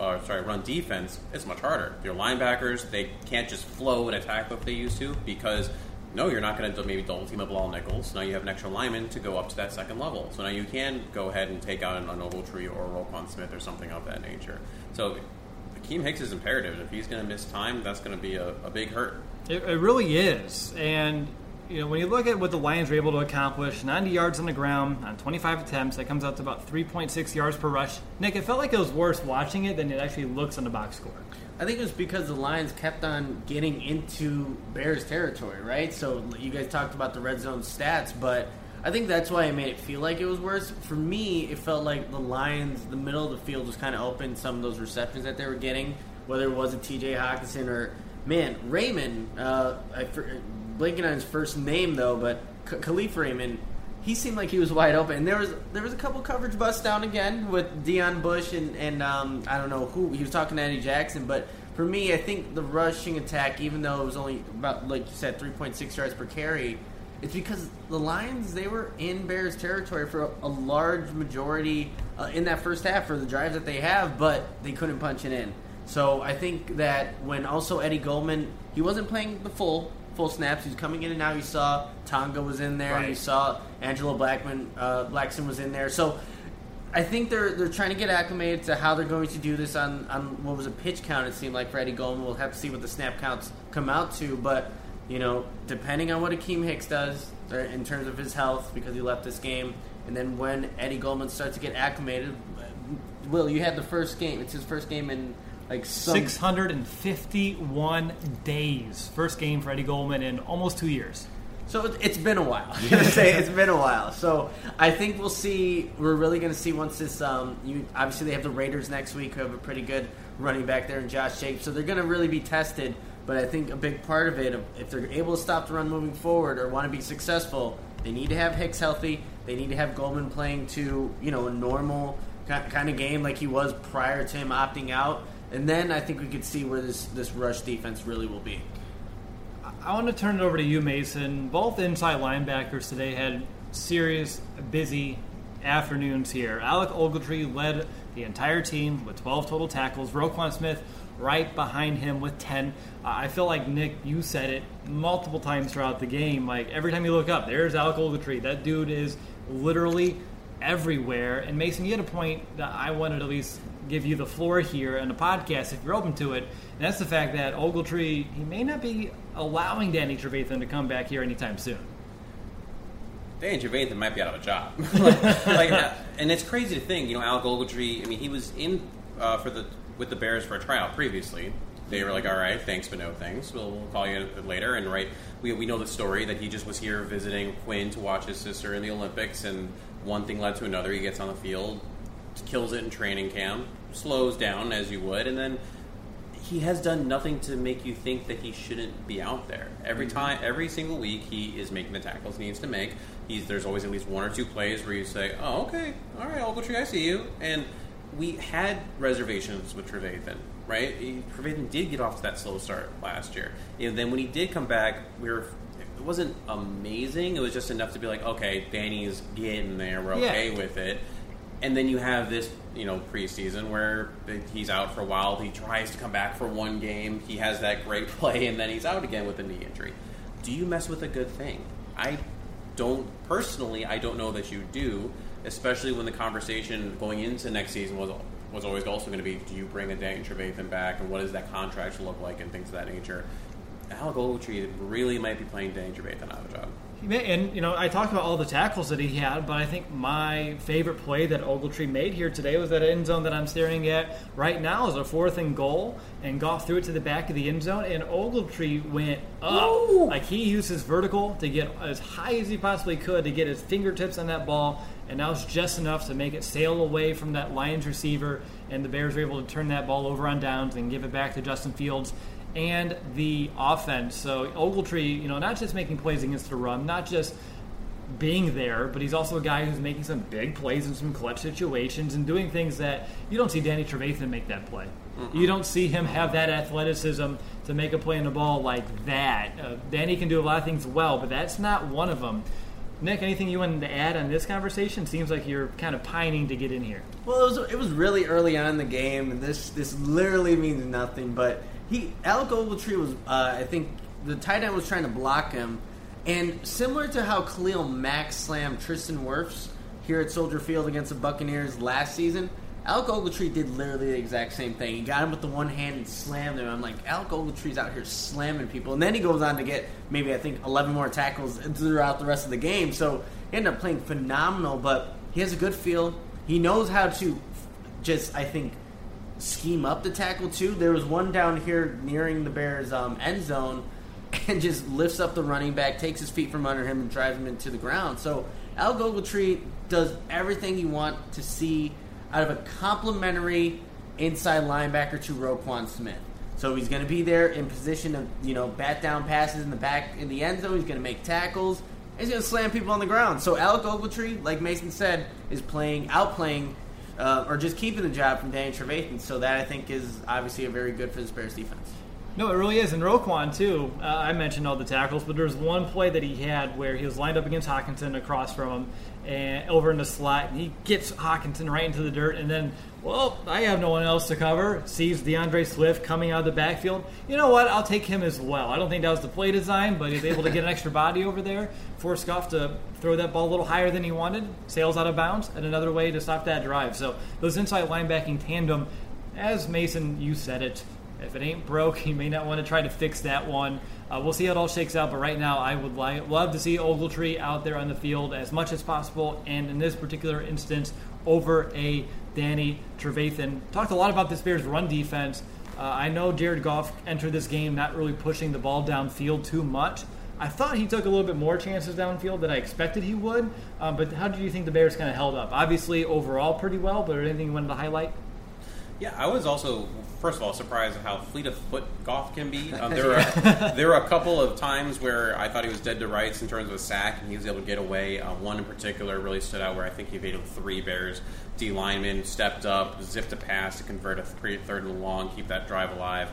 defense, it's much harder. Your linebackers, they can't just flow and attack like they used to, because no, you're not going to maybe double team up Bilal Nichols. Now you have an extra lineman to go up to that second level. So now you can go ahead and take out an Ogletree or a Roquan Smith or something of that nature. So Akeem Hicks is imperative. If he's going to miss time, that's going to be a big hurt.
It really is. And when you look at what the Lions were able to accomplish, 90 yards on the ground on 25 attempts, that comes out to about 3.6 yards per rush. Nick, it felt like it was worse watching it than it actually looks on the box score.
I think it was because the Lions kept on getting into Bears territory, right? So you guys talked about the red zone stats, but I think that's why it made it feel like it was worse. For me, it felt like the Lions, the middle of the field was kind of open, some of those receptions that they were getting, whether it was a T.J. Hockenson or, Raymond, blanking on his first name, though, but Khalif Raymond, he seemed like he was wide open. And there was a couple coverage busts down again with Deion Bush and I don't know who. He was talking to Eddie Jackson. But for me, I think the rushing attack, even though it was only about, like you said, 3.6 yards per carry, it's because the Lions, they were in Bears territory for a large majority in that first half for the drives that they have, but they couldn't punch it in. So I think that when also Eddie Goldman, he wasn't playing the full snaps. He was coming in and out. You saw Tonga was in there.
Right.
You saw Angelo Blackson was in there. So I think they're trying to get acclimated to how they're going to do this on what was a pitch count, it seemed like, for Eddie Goldman. We'll have to see what the snap counts come out to. But, depending on what Akeem Hicks does in terms of his health, because he left this game, and then when Eddie Goldman starts to get acclimated, Will, you had the first game. It's his first game in
651 days. First game for Eddie Goldman in almost 2 years.
So it's been a while. I'm going to say it's been a while. So I think we'll see. We're really going to see once this. Obviously, they have the Raiders next week, who have a pretty good running back there in Josh Jacobs. So they're going to really be tested. But I think a big part of it, if they're able to stop the run moving forward or want to be successful, they need to have Hicks healthy. They need to have Goldman playing to a normal kind of game like he was prior to him opting out. And then I think we could see where this rush defense really will be.
I want to turn it over to you, Mason. Both inside linebackers today had serious, busy afternoons here. Alec Ogletree led the entire team with 12 total tackles. Roquan Smith right behind him with 10. I feel like, Nick, you said it multiple times throughout the game. Like, every time you look up, there's Alec Ogletree. That dude is literally everywhere. And Mason, you had a point that I wanted to at least give you the floor here on the podcast if you're open to it, and that's the fact that Ogletree, he may not be allowing Danny Trevathan to come back here anytime soon.
Danny Trevathan might be out of a job. And it's crazy to think, Alec Ogletree, he was in with the Bears for a tryout previously. They were like, all right, thanks, but no thanks. We'll call you later. And we know the story that he just was here visiting Quinn to watch his sister in the Olympics, and one thing led to another. He gets on the field, kills it in training camp, slows down as you would, and then he has done nothing to make you think that he shouldn't be out there. Every single week, he is making the tackles he needs to make. There's always at least one or two plays where you say, "Oh, okay, all right, Ogletree, I see you." And we had reservations with Trevathan, right? Trevathan did get off to that slow start last year, and then when he did come back, it wasn't amazing. It was just enough to be like, okay, Danny's getting there. We're okay with it. And then you have this, preseason where he's out for a while. He tries to come back for one game. He has that great play, and then he's out again with a knee injury. Do you mess with a good thing? I don't know that you do, especially when the conversation going into next season was always also going to be, do you bring a Danny Trevathan back, and what does that contract look like, and things of that nature. Alec Ogletree really might be playing Danny Trevathan out of a job.
And, I talked about all the tackles that he had, but I think my favorite play that Ogletree made here today was that end zone that I'm staring at right now is a 4th and goal, and Goff threw it to the back of the end zone, and Ogletree went up. Ooh. Like, he used his vertical to get as high as he possibly could to get his fingertips on that ball, and that was just enough to make it sail away from that Lions receiver, and the Bears were able to turn that ball over on downs and give it back to Justin Fields and the offense. So Ogletree, not just making plays against the run, not just being there, but he's also a guy who's making some big plays in some clutch situations and doing things that you don't see Danny Trevathan make that play. Mm-hmm. You don't see him have that athleticism to make a play on the ball like that. Danny can do a lot of things well, but that's not one of them. Nick, anything you wanted to add on this conversation? Seems like you're kind of pining to get in here.
Well, it was really early on in the game, and this literally means nothing, but Alec Ogletree was, I think, the tight end was trying to block him, and similar to how Khalil Mack slammed Tristan Wirfs here at Soldier Field against the Buccaneers last season, Alec Ogletree did literally the exact same thing. He got him with the one hand and slammed him. I'm like, Alec Ogletree's out here slamming people, and then he goes on to get maybe, I think, 11 more tackles throughout the rest of the game, so he ended up playing phenomenal, but he has a good feel. He knows how to just, I think, scheme up the tackle too. There was one down here nearing the Bears' end zone and just lifts up the running back, takes his feet from under him, and drives him into the ground. So Alec Ogletree does everything you want to see out of a complimentary inside linebacker to Roquan Smith. So he's going to be there in position of bat down passes in the back in the end zone. He's going to make tackles. He's going to slam people on the ground. So Alec Ogletree, like Mason said, is outplaying or just keeping the job from Danny Trevathan. So that, I think, is obviously a very good for this Bears defense.
No, it really is. And Roquan, too, I mentioned all the tackles, but there's one play that he had where he was lined up against Hockenson across from him and over in the slot, and he gets Hockenson right into the dirt, and then, I have no one else to cover, sees DeAndre Swift coming out of the backfield. You know what? I'll take him as well. I don't think that was the play design, but he's able to get an extra body over there, force Goff to throw that ball a little higher than he wanted, sails out of bounds, and another way to stop that drive. So those inside linebacking tandem, as Mason, you said it, if it ain't broke, you may not want to try to fix that one. We'll see how it all shakes out, but right now I would love to see Ogletree out there on the field as much as possible, and in this particular instance, over a Danny Trevathan. Talked a lot about this Bears run defense. I know Jared Goff entered this game not really pushing the ball downfield too much. I thought he took a little bit more chances downfield than I expected he would, but how did you think the Bears kind of held up? Obviously, overall pretty well, but anything you wanted to highlight?
Yeah, I was also, first of all, surprised at how fleet of foot Goff can be. There were a couple of times where I thought he was dead to rights in terms of a sack, and he was able to get away. One in particular really stood out where I think he evaded 3 Bears D linemen, stepped up, zipped a pass to convert a 3rd and long, keep that drive alive.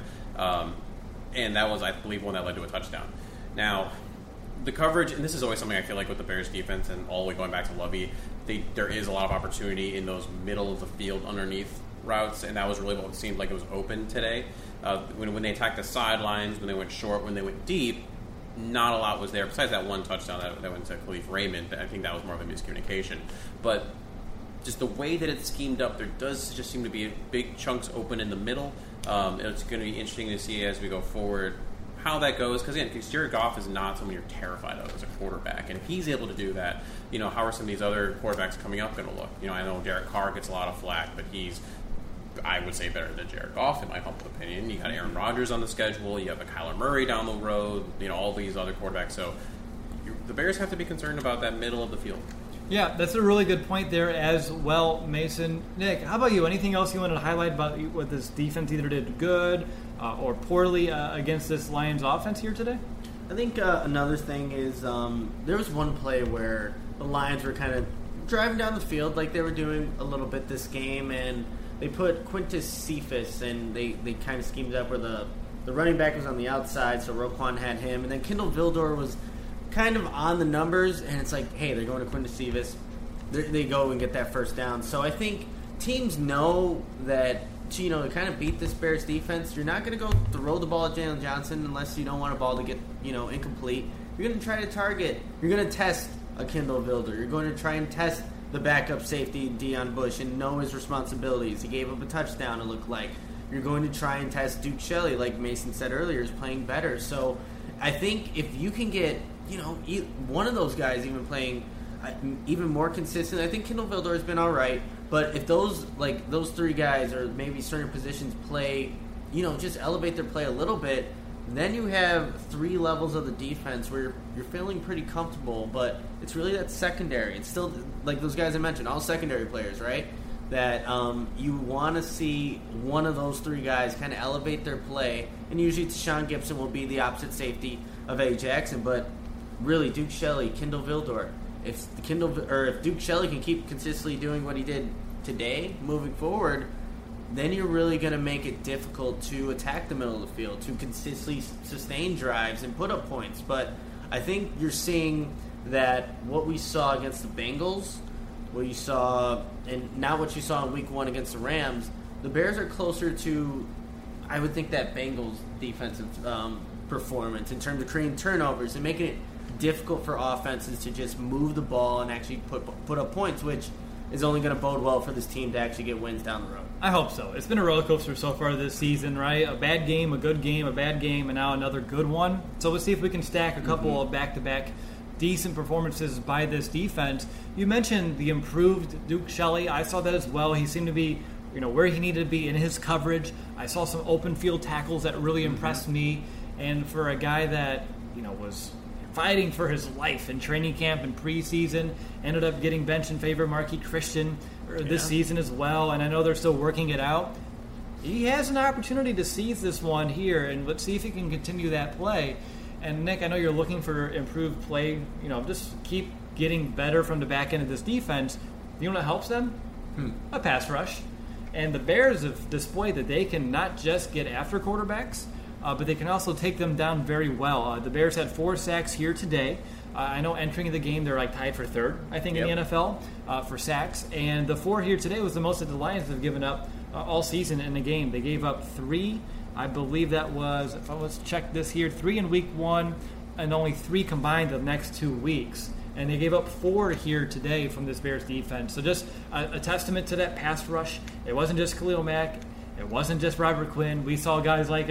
And that was, I believe, one that led to a touchdown. Now, the coverage, and this is always something I feel like with the Bears defense, and all the way going back to Lovey, there is a lot of opportunity in those middle of the field underneath routes, and that was really what it seemed like it was open today. When they attacked the sidelines, when they went short, when they went deep, not a lot was there. Besides that one touchdown that went to Khalif Raymond, I think that was more of a miscommunication. But just the way that it's schemed up, there does just seem to be big chunks open in the middle. It's going to be interesting to see as we go forward how that goes, because Jared Goff is not someone you're terrified of as a quarterback, and if he's able to do that, how are some of these other quarterbacks coming up going to look? I know Derek Carr gets a lot of flack, but he's, I would say, better than Jared Goff in my humble opinion. You got Aaron Rodgers on the schedule, you have a Kyler Murray down the road, all these other quarterbacks, so the Bears have to be concerned about that middle of the field.
Yeah, that's a really good point there as well, Mason. Nick, how about you? Anything else you wanted to highlight about what this defense either did good or poorly against this Lions offense here today?
I think another thing is there was one play where the Lions were kind of driving down the field like they were doing a little bit this game, and they put Quintus Cephas, and they kind of schemed up where the running back was on the outside, so Roquan had him, and then Kindle Vildor was kind of on the numbers, and it's like, hey, they're going to Quintus Cephas. They go and get that first down. So I think teams know that, to kind of beat this Bears defense, you're not going to go throw the ball at Jalen Johnson unless you don't want a ball to get, incomplete. You're going to try to target. You're going to test a Kindle Vildor. You're going to try and test the backup safety, Deion Bush, and know his responsibilities. He gave up a touchdown, it looked like. You're going to try and test Duke Shelley, like Mason said earlier, is playing better. So I think if you can get, one of those guys even playing even more consistent, I think Kindle Vildor has been all right. But if those three guys or maybe certain positions play, just elevate their play a little bit, then you have three levels of the defense where you're feeling pretty comfortable. But it's really that secondary. It's still, like those guys I mentioned, all secondary players, right? That you want to see one of those three guys kind of elevate their play. And usually Tashawn Gibson will be the opposite safety of A. Jackson. But really, Duke Shelley, Kindle Vildor, if Duke Shelley can keep consistently doing what he did today, moving forward, then you're really going to make it difficult to attack the middle of the field, to consistently sustain drives and put up points. But I think you're seeing that what we saw against the Bengals, what you saw, and now what you saw in Week 1 against the Rams, the Bears are closer to, I would think, that Bengals defensive performance in terms of creating turnovers and making it difficult for offenses to just move the ball and actually put up points, which is only going to bode well for this team to actually get wins down the road.
I hope so. It's been a roller coaster so far this season, right? A bad game, a good game, a bad game, and now another good one. So let's see if we can stack a couple of back-to-back decent performances by this defense. You mentioned the improved Duke Shelley. I saw that as well. He seemed to be, where he needed to be in his coverage. I saw some open field tackles that really impressed me. And for a guy that, was fighting for his life in training camp and preseason, ended up getting benched in favor of Marquis Christian this season as well, and I know they're still working it out. He has an opportunity to seize this one here, and let's see if he can continue that play. And Nick, I know you're looking for improved play, just keep getting better from the back end of this defense. You know what helps them? A pass rush. And the Bears have displayed that they can not just get after quarterbacks, but they can also take them down very well. The Bears had 4 sacks here today. I know entering the game they're tied for third, I think, in the NFL for sacks. And the 4 here today was the most that the Lions have given up all season in the game. They gave up 3. I believe that was, let's check this here, 3 in Week 1 and only 3 combined the next 2 weeks. And they gave up 4 here today from this Bears defense. So just a testament to that pass rush. It wasn't just Khalil Mack. It wasn't just Robert Quinn. We saw guys like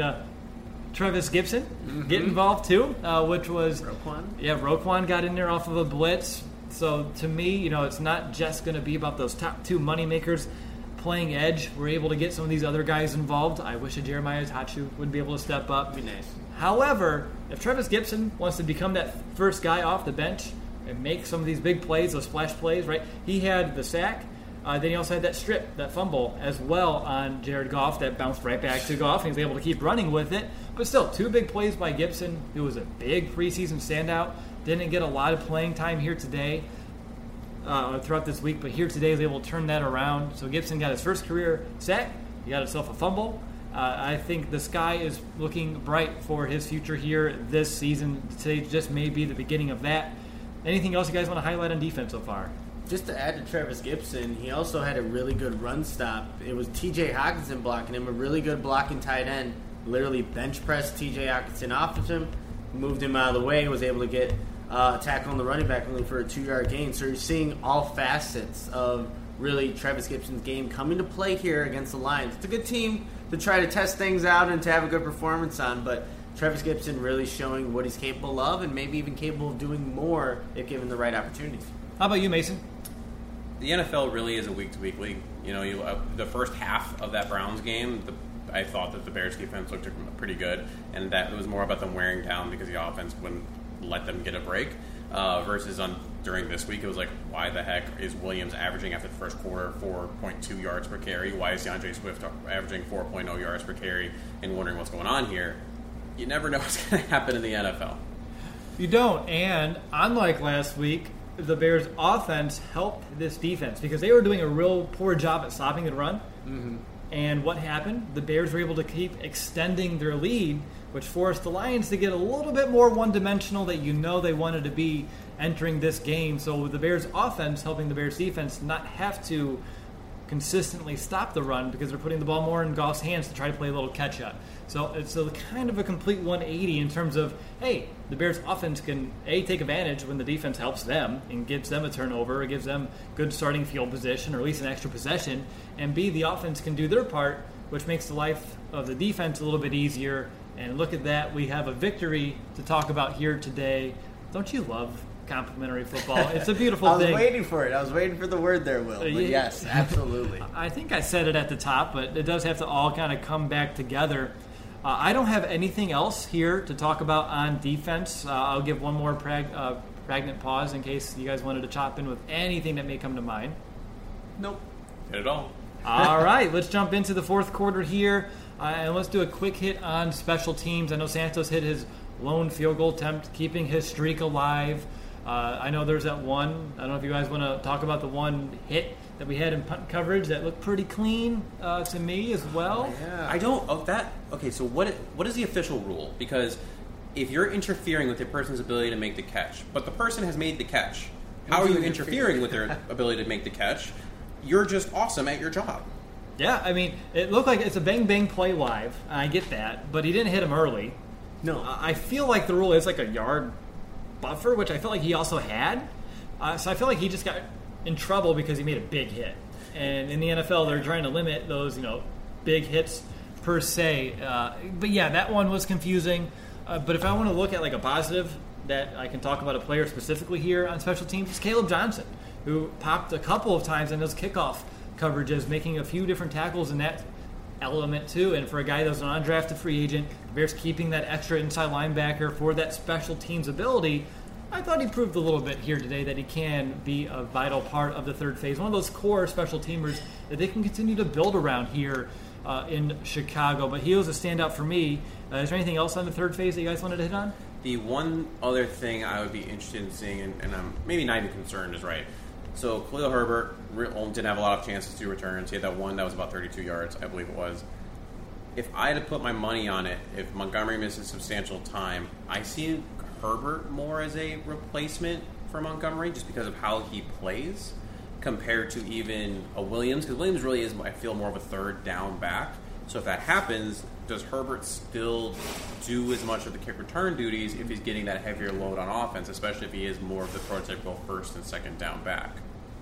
Travis Gibson get involved too, which was
Roquan.
Yeah, Roquan got in there off of a blitz. So to me, it's not just going to be about those top 2 moneymakers playing edge. We're able to get some of these other guys involved. I wish a Jeremiah Tachu would be able to step up.
Be nice.
However, if Travis Gibson wants to become that first guy off the bench and make some of these big plays, those splash plays, right? He had the sack. Then he also had that strip, that fumble as well on Jared Goff that bounced right back to Goff, and he was able to keep running with it. But still, 2 big plays by Gibson, who was a big preseason standout. Didn't get a lot of playing time here today throughout this week, but here today he was able to turn that around. So Gibson got his first career sack. He got himself a fumble. I think the sky is looking bright for his future here this season. Today just may be the beginning of that. Anything else you guys want to highlight on defense so far?
Just to add to Travis Gibson, he also had a really good run stop. It was T.J. Hockenson blocking him, a really good blocking tight end. Literally bench pressed T.J. Hockenson off of him, moved him out of the way, was able to get a tackle on the running back only for a 2-yard gain. So you're seeing all facets of really Travis Gibson's game coming to play here against the Lions. It's a good team to try to test things out and to have a good performance on, but Travis Gibson really showing what he's capable of and maybe even capable of doing more if given the right opportunities.
How about you, Mason?
The NFL really is a week-to-week league. The first half of that Browns game, I thought that the Bears defense looked pretty good, and that it was more about them wearing down because the offense wouldn't let them get a break. Versus during this week, it was like, why the heck is Williams averaging after the first quarter 4.2 yards per carry? Why is DeAndre Swift averaging 4.0 yards per carry? And wondering what's going on here. You never know what's going to happen in the NFL.
You don't. And unlike last week, the Bears' offense helped this defense because they were doing a real poor job at stopping the run.
Mm-hmm.
And what happened? The Bears were able to keep extending their lead, which forced the Lions to get a little bit more one-dimensional that they wanted to be entering this game. So the Bears' offense helping the Bears' defense not have to consistently stop the run because they're putting the ball more in Goff's hands to try to play a little catch-up. So it's a kind of a complete 180 in terms of, hey, the Bears' offense can, A, take advantage when the defense helps them and gives them a turnover, or gives them good starting field position, or at least an extra possession, and B, the offense can do their part, which makes the life of the defense a little bit easier. And look at that, we have a victory to talk about here today. Don't you love complimentary football? It's a beautiful thing.
I was waiting for it. I was waiting for the word there, Will. But yes, absolutely.
I think I said it at the top, but it does have to all kind of come back together. I don't have anything else here to talk about on defense. I'll give one more pregnant pause in case you guys wanted to chop in with anything that may come to mind.
Nope.
Hit it all.
All right, let's jump into the fourth quarter here, and let's do a quick hit on special teams. I know Santos hit his lone field goal attempt, keeping his streak alive. I know there's that one. I don't know if you guys want to talk about the one hit that we had in punt coverage that looked pretty clean to me as well.
Yeah.
I don't. Okay, so what is the official rule? Because if you're interfering with a person's ability to make the catch, but the person has made the catch, how are you interfering with their ability to make the catch? You're just awesome at your job.
Yeah, I mean, it looked like it's a bang-bang play live. I get that, but he didn't hit him early.
No.
I feel like the rule is like a yard buffer, which I felt like he also had. So I feel like he just got in trouble because he made a big hit. And in the NFL, they're trying to limit those, big hits per se. But yeah, that one was confusing. But if I want to look at like a positive that I can talk about a player specifically here on special teams, it's Caleb Johnson, who popped a couple of times in those kickoff coverages, making a few different tackles in that element too. And for a guy that was an undrafted free agent, the Bears keeping that extra inside linebacker for that special teams ability, I thought he proved a little bit here today that he can be a vital part of the third phase, one of those core special teamers that they can continue to build around here in Chicago. But he was a standout for me. Is there anything else on the third phase that you guys wanted to hit on?
The one other thing I would be interested in seeing, and I'm maybe not even concerned, is right. So Khalil Herbert didn't have a lot of chances to returns. He had that one that was about 32 yards, I believe it was. If I had to put my money on it, if Montgomery misses substantial time, I see Herbert more as a replacement for Montgomery just because of how he plays compared to even a Williams. Because Williams really is, I feel, more of a third down back. So if that happens, does Herbert still do as much of the kick return duties if he's getting that heavier load on offense, especially if he is more of the prototypical first and second down back?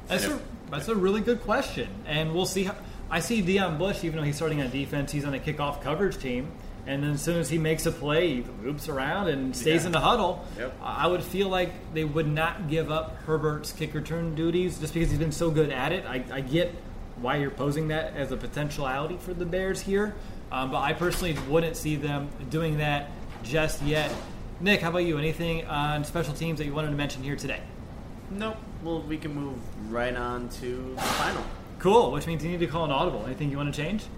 That's a really good question. And we'll see. I see Deion Bush, even though he's starting on defense, he's on a kickoff coverage team. And then as soon as he makes a play, he loops around and stays in the huddle.
Yep.
I would feel like they would not give up Herbert's kick return duties just because he's been so good at it. I get why you're posing that as a potentiality for the Bears here. But I personally wouldn't see them doing that just yet. Nick, how about you? Anything on special teams that you wanted to mention here today?
Nope. Well, we can move right on to the final.
Cool, which means you need to call an audible. Anything you want to change?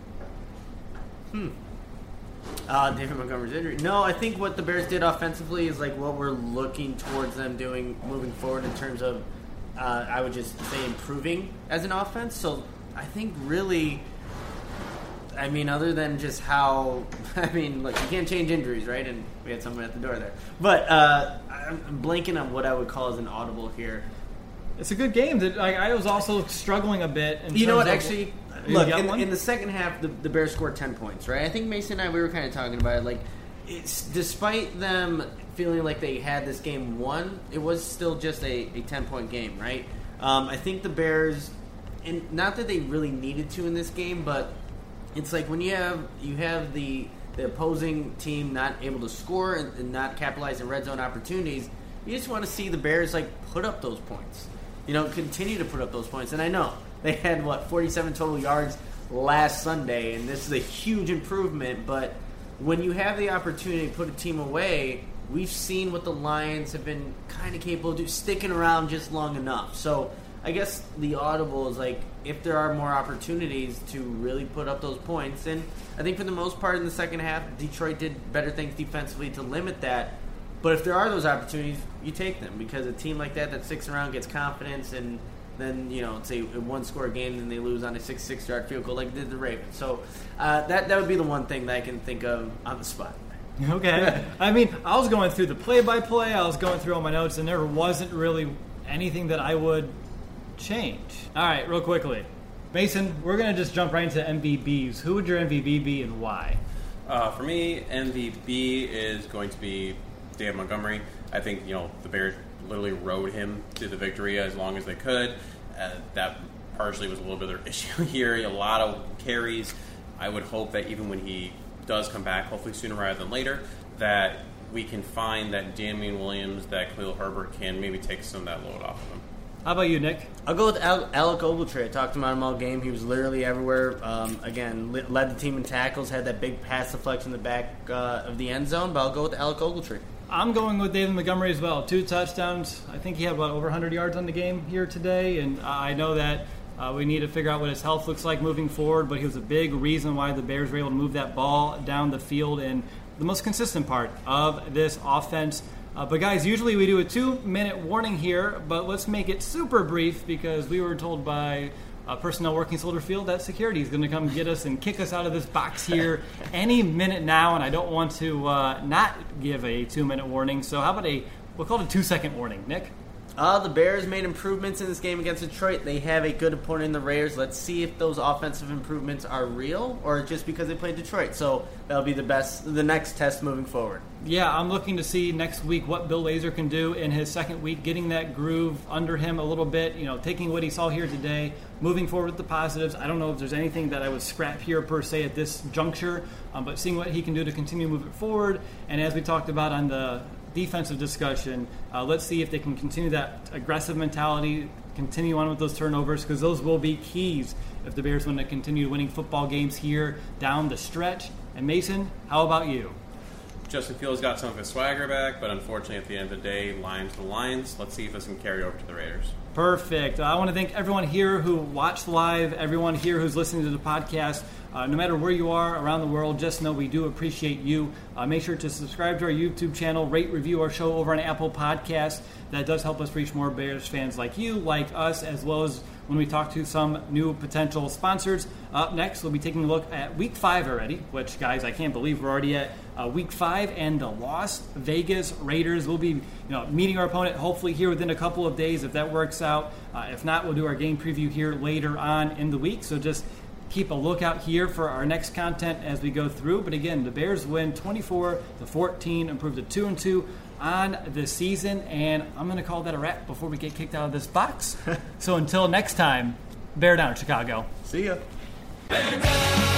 David Montgomery's injury. No, I think what the Bears did offensively is like what we're looking towards them doing moving forward in terms of, I would just say, improving as an offense. So I think really, I mean, other than just how, look, you can't change injuries, right? And we had someone at the door there. But I'm blanking on what I would call as an audible here.
It's a good game. I was also struggling a bit.
You know what, actually, look, in the second half, the Bears scored 10 points, right? I think Mason and I, we were kind of talking about it. Like, it's despite them feeling like they had this game won, it was still just a 10-point game, right? I think the Bears, and not that they really needed to in this game, but it's like when you have the opposing team not able to score and not capitalize in red zone opportunities, you just want to see the Bears put up those points. Continue to put up those points. And I know they had 47 total yards last Sunday, and this is a huge improvement. But when you have the opportunity to put a team away, we've seen what the Lions have been kind of capable of doing, sticking around just long enough. So I guess the audible is like, if there are more opportunities to really put up those points, and I think for the most part in the second half, Detroit did better things defensively to limit that. But if there are those opportunities, you take them, because a team like that sticks around, gets confidence, and then, it's a one-score game, and they lose on a 66-yard field goal like did the Ravens. So that would be the one thing that I can think of on the spot.
Okay. I mean, I was going through the play-by-play. I was going through all my notes, and there wasn't really anything that I would change. All right, real quickly. Mason, we're going to just jump right into MVBs. Who would your MVP be and why?
For me, MVP is going to be David Montgomery. I think, the Bears literally rode him to the victory as long as they could. That partially was a little bit of their issue here. A lot of carries. I would hope that even when he does come back, hopefully sooner rather than later, that we can find that Damian Williams, that Khalil Herbert can maybe take some of that load off of him.
How about you, Nick?
I'll go with Alec Ogletree. I talked about him all game. He was literally everywhere. Again, led the team in tackles, had that big pass deflection in the back of the end zone, but I'll go with Alec Ogletree.
I'm going with David Montgomery as well. 2 touchdowns. I think he had about over 100 yards on the game here today, and I know that we need to figure out what his health looks like moving forward, but he was a big reason why the Bears were able to move that ball down the field and the most consistent part of this offense. But guys, usually we do a 2-minute warning here, but let's make it super brief because we were told by personnel working Soldier Field that security is going to come get us and kick us out of this box here any minute now, and I don't want to not give a 2-minute warning. So how about we'll call it a 2-second warning, Nick?
The Bears made improvements in this game against Detroit. They have a good opponent in the Raiders. Let's see if those offensive improvements are real or just because they played Detroit. So that'll be the next test moving forward.
Yeah, I'm looking to see next week what Bill Lazor can do in his second week, getting that groove under him a little bit, taking what he saw here today, moving forward with the positives. I don't know if there's anything that I would scrap here per se at this juncture, but seeing what he can do to continue to move it forward. And as we talked about on the defensive discussion, let's see if they can continue that aggressive mentality, continue on with those turnovers, because those will be keys if the Bears want to continue winning football games here down the stretch. And Mason, how about you?
Justin Fields got some of his swagger back, but unfortunately at the end of the day, Lions to Lions. Let's see if this can carry over to the Raiders.
Perfect. I want to thank everyone here who watched live, everyone here who's listening to the podcast. No matter where you are around the world, just know we do appreciate you. Make sure to subscribe to our YouTube channel, rate, review our show over on Apple Podcasts. That does help us reach more Bears fans like you, like us, as well as when we talk to some new potential sponsors. Up next, we'll be taking a look at Week 5 already, which, guys, I can't believe we're already at Week 5, and the Las Vegas Raiders will be meeting our opponent hopefully here within a couple of days if that works out. If not, we'll do our game preview here later on in the week, so just keep a lookout here for our next content as we go through. But again, the Bears win 24-14, improve to 2-2 on the season, and I'm going to call that a wrap before we get kicked out of this box. So until next time, bear down, Chicago.
See ya.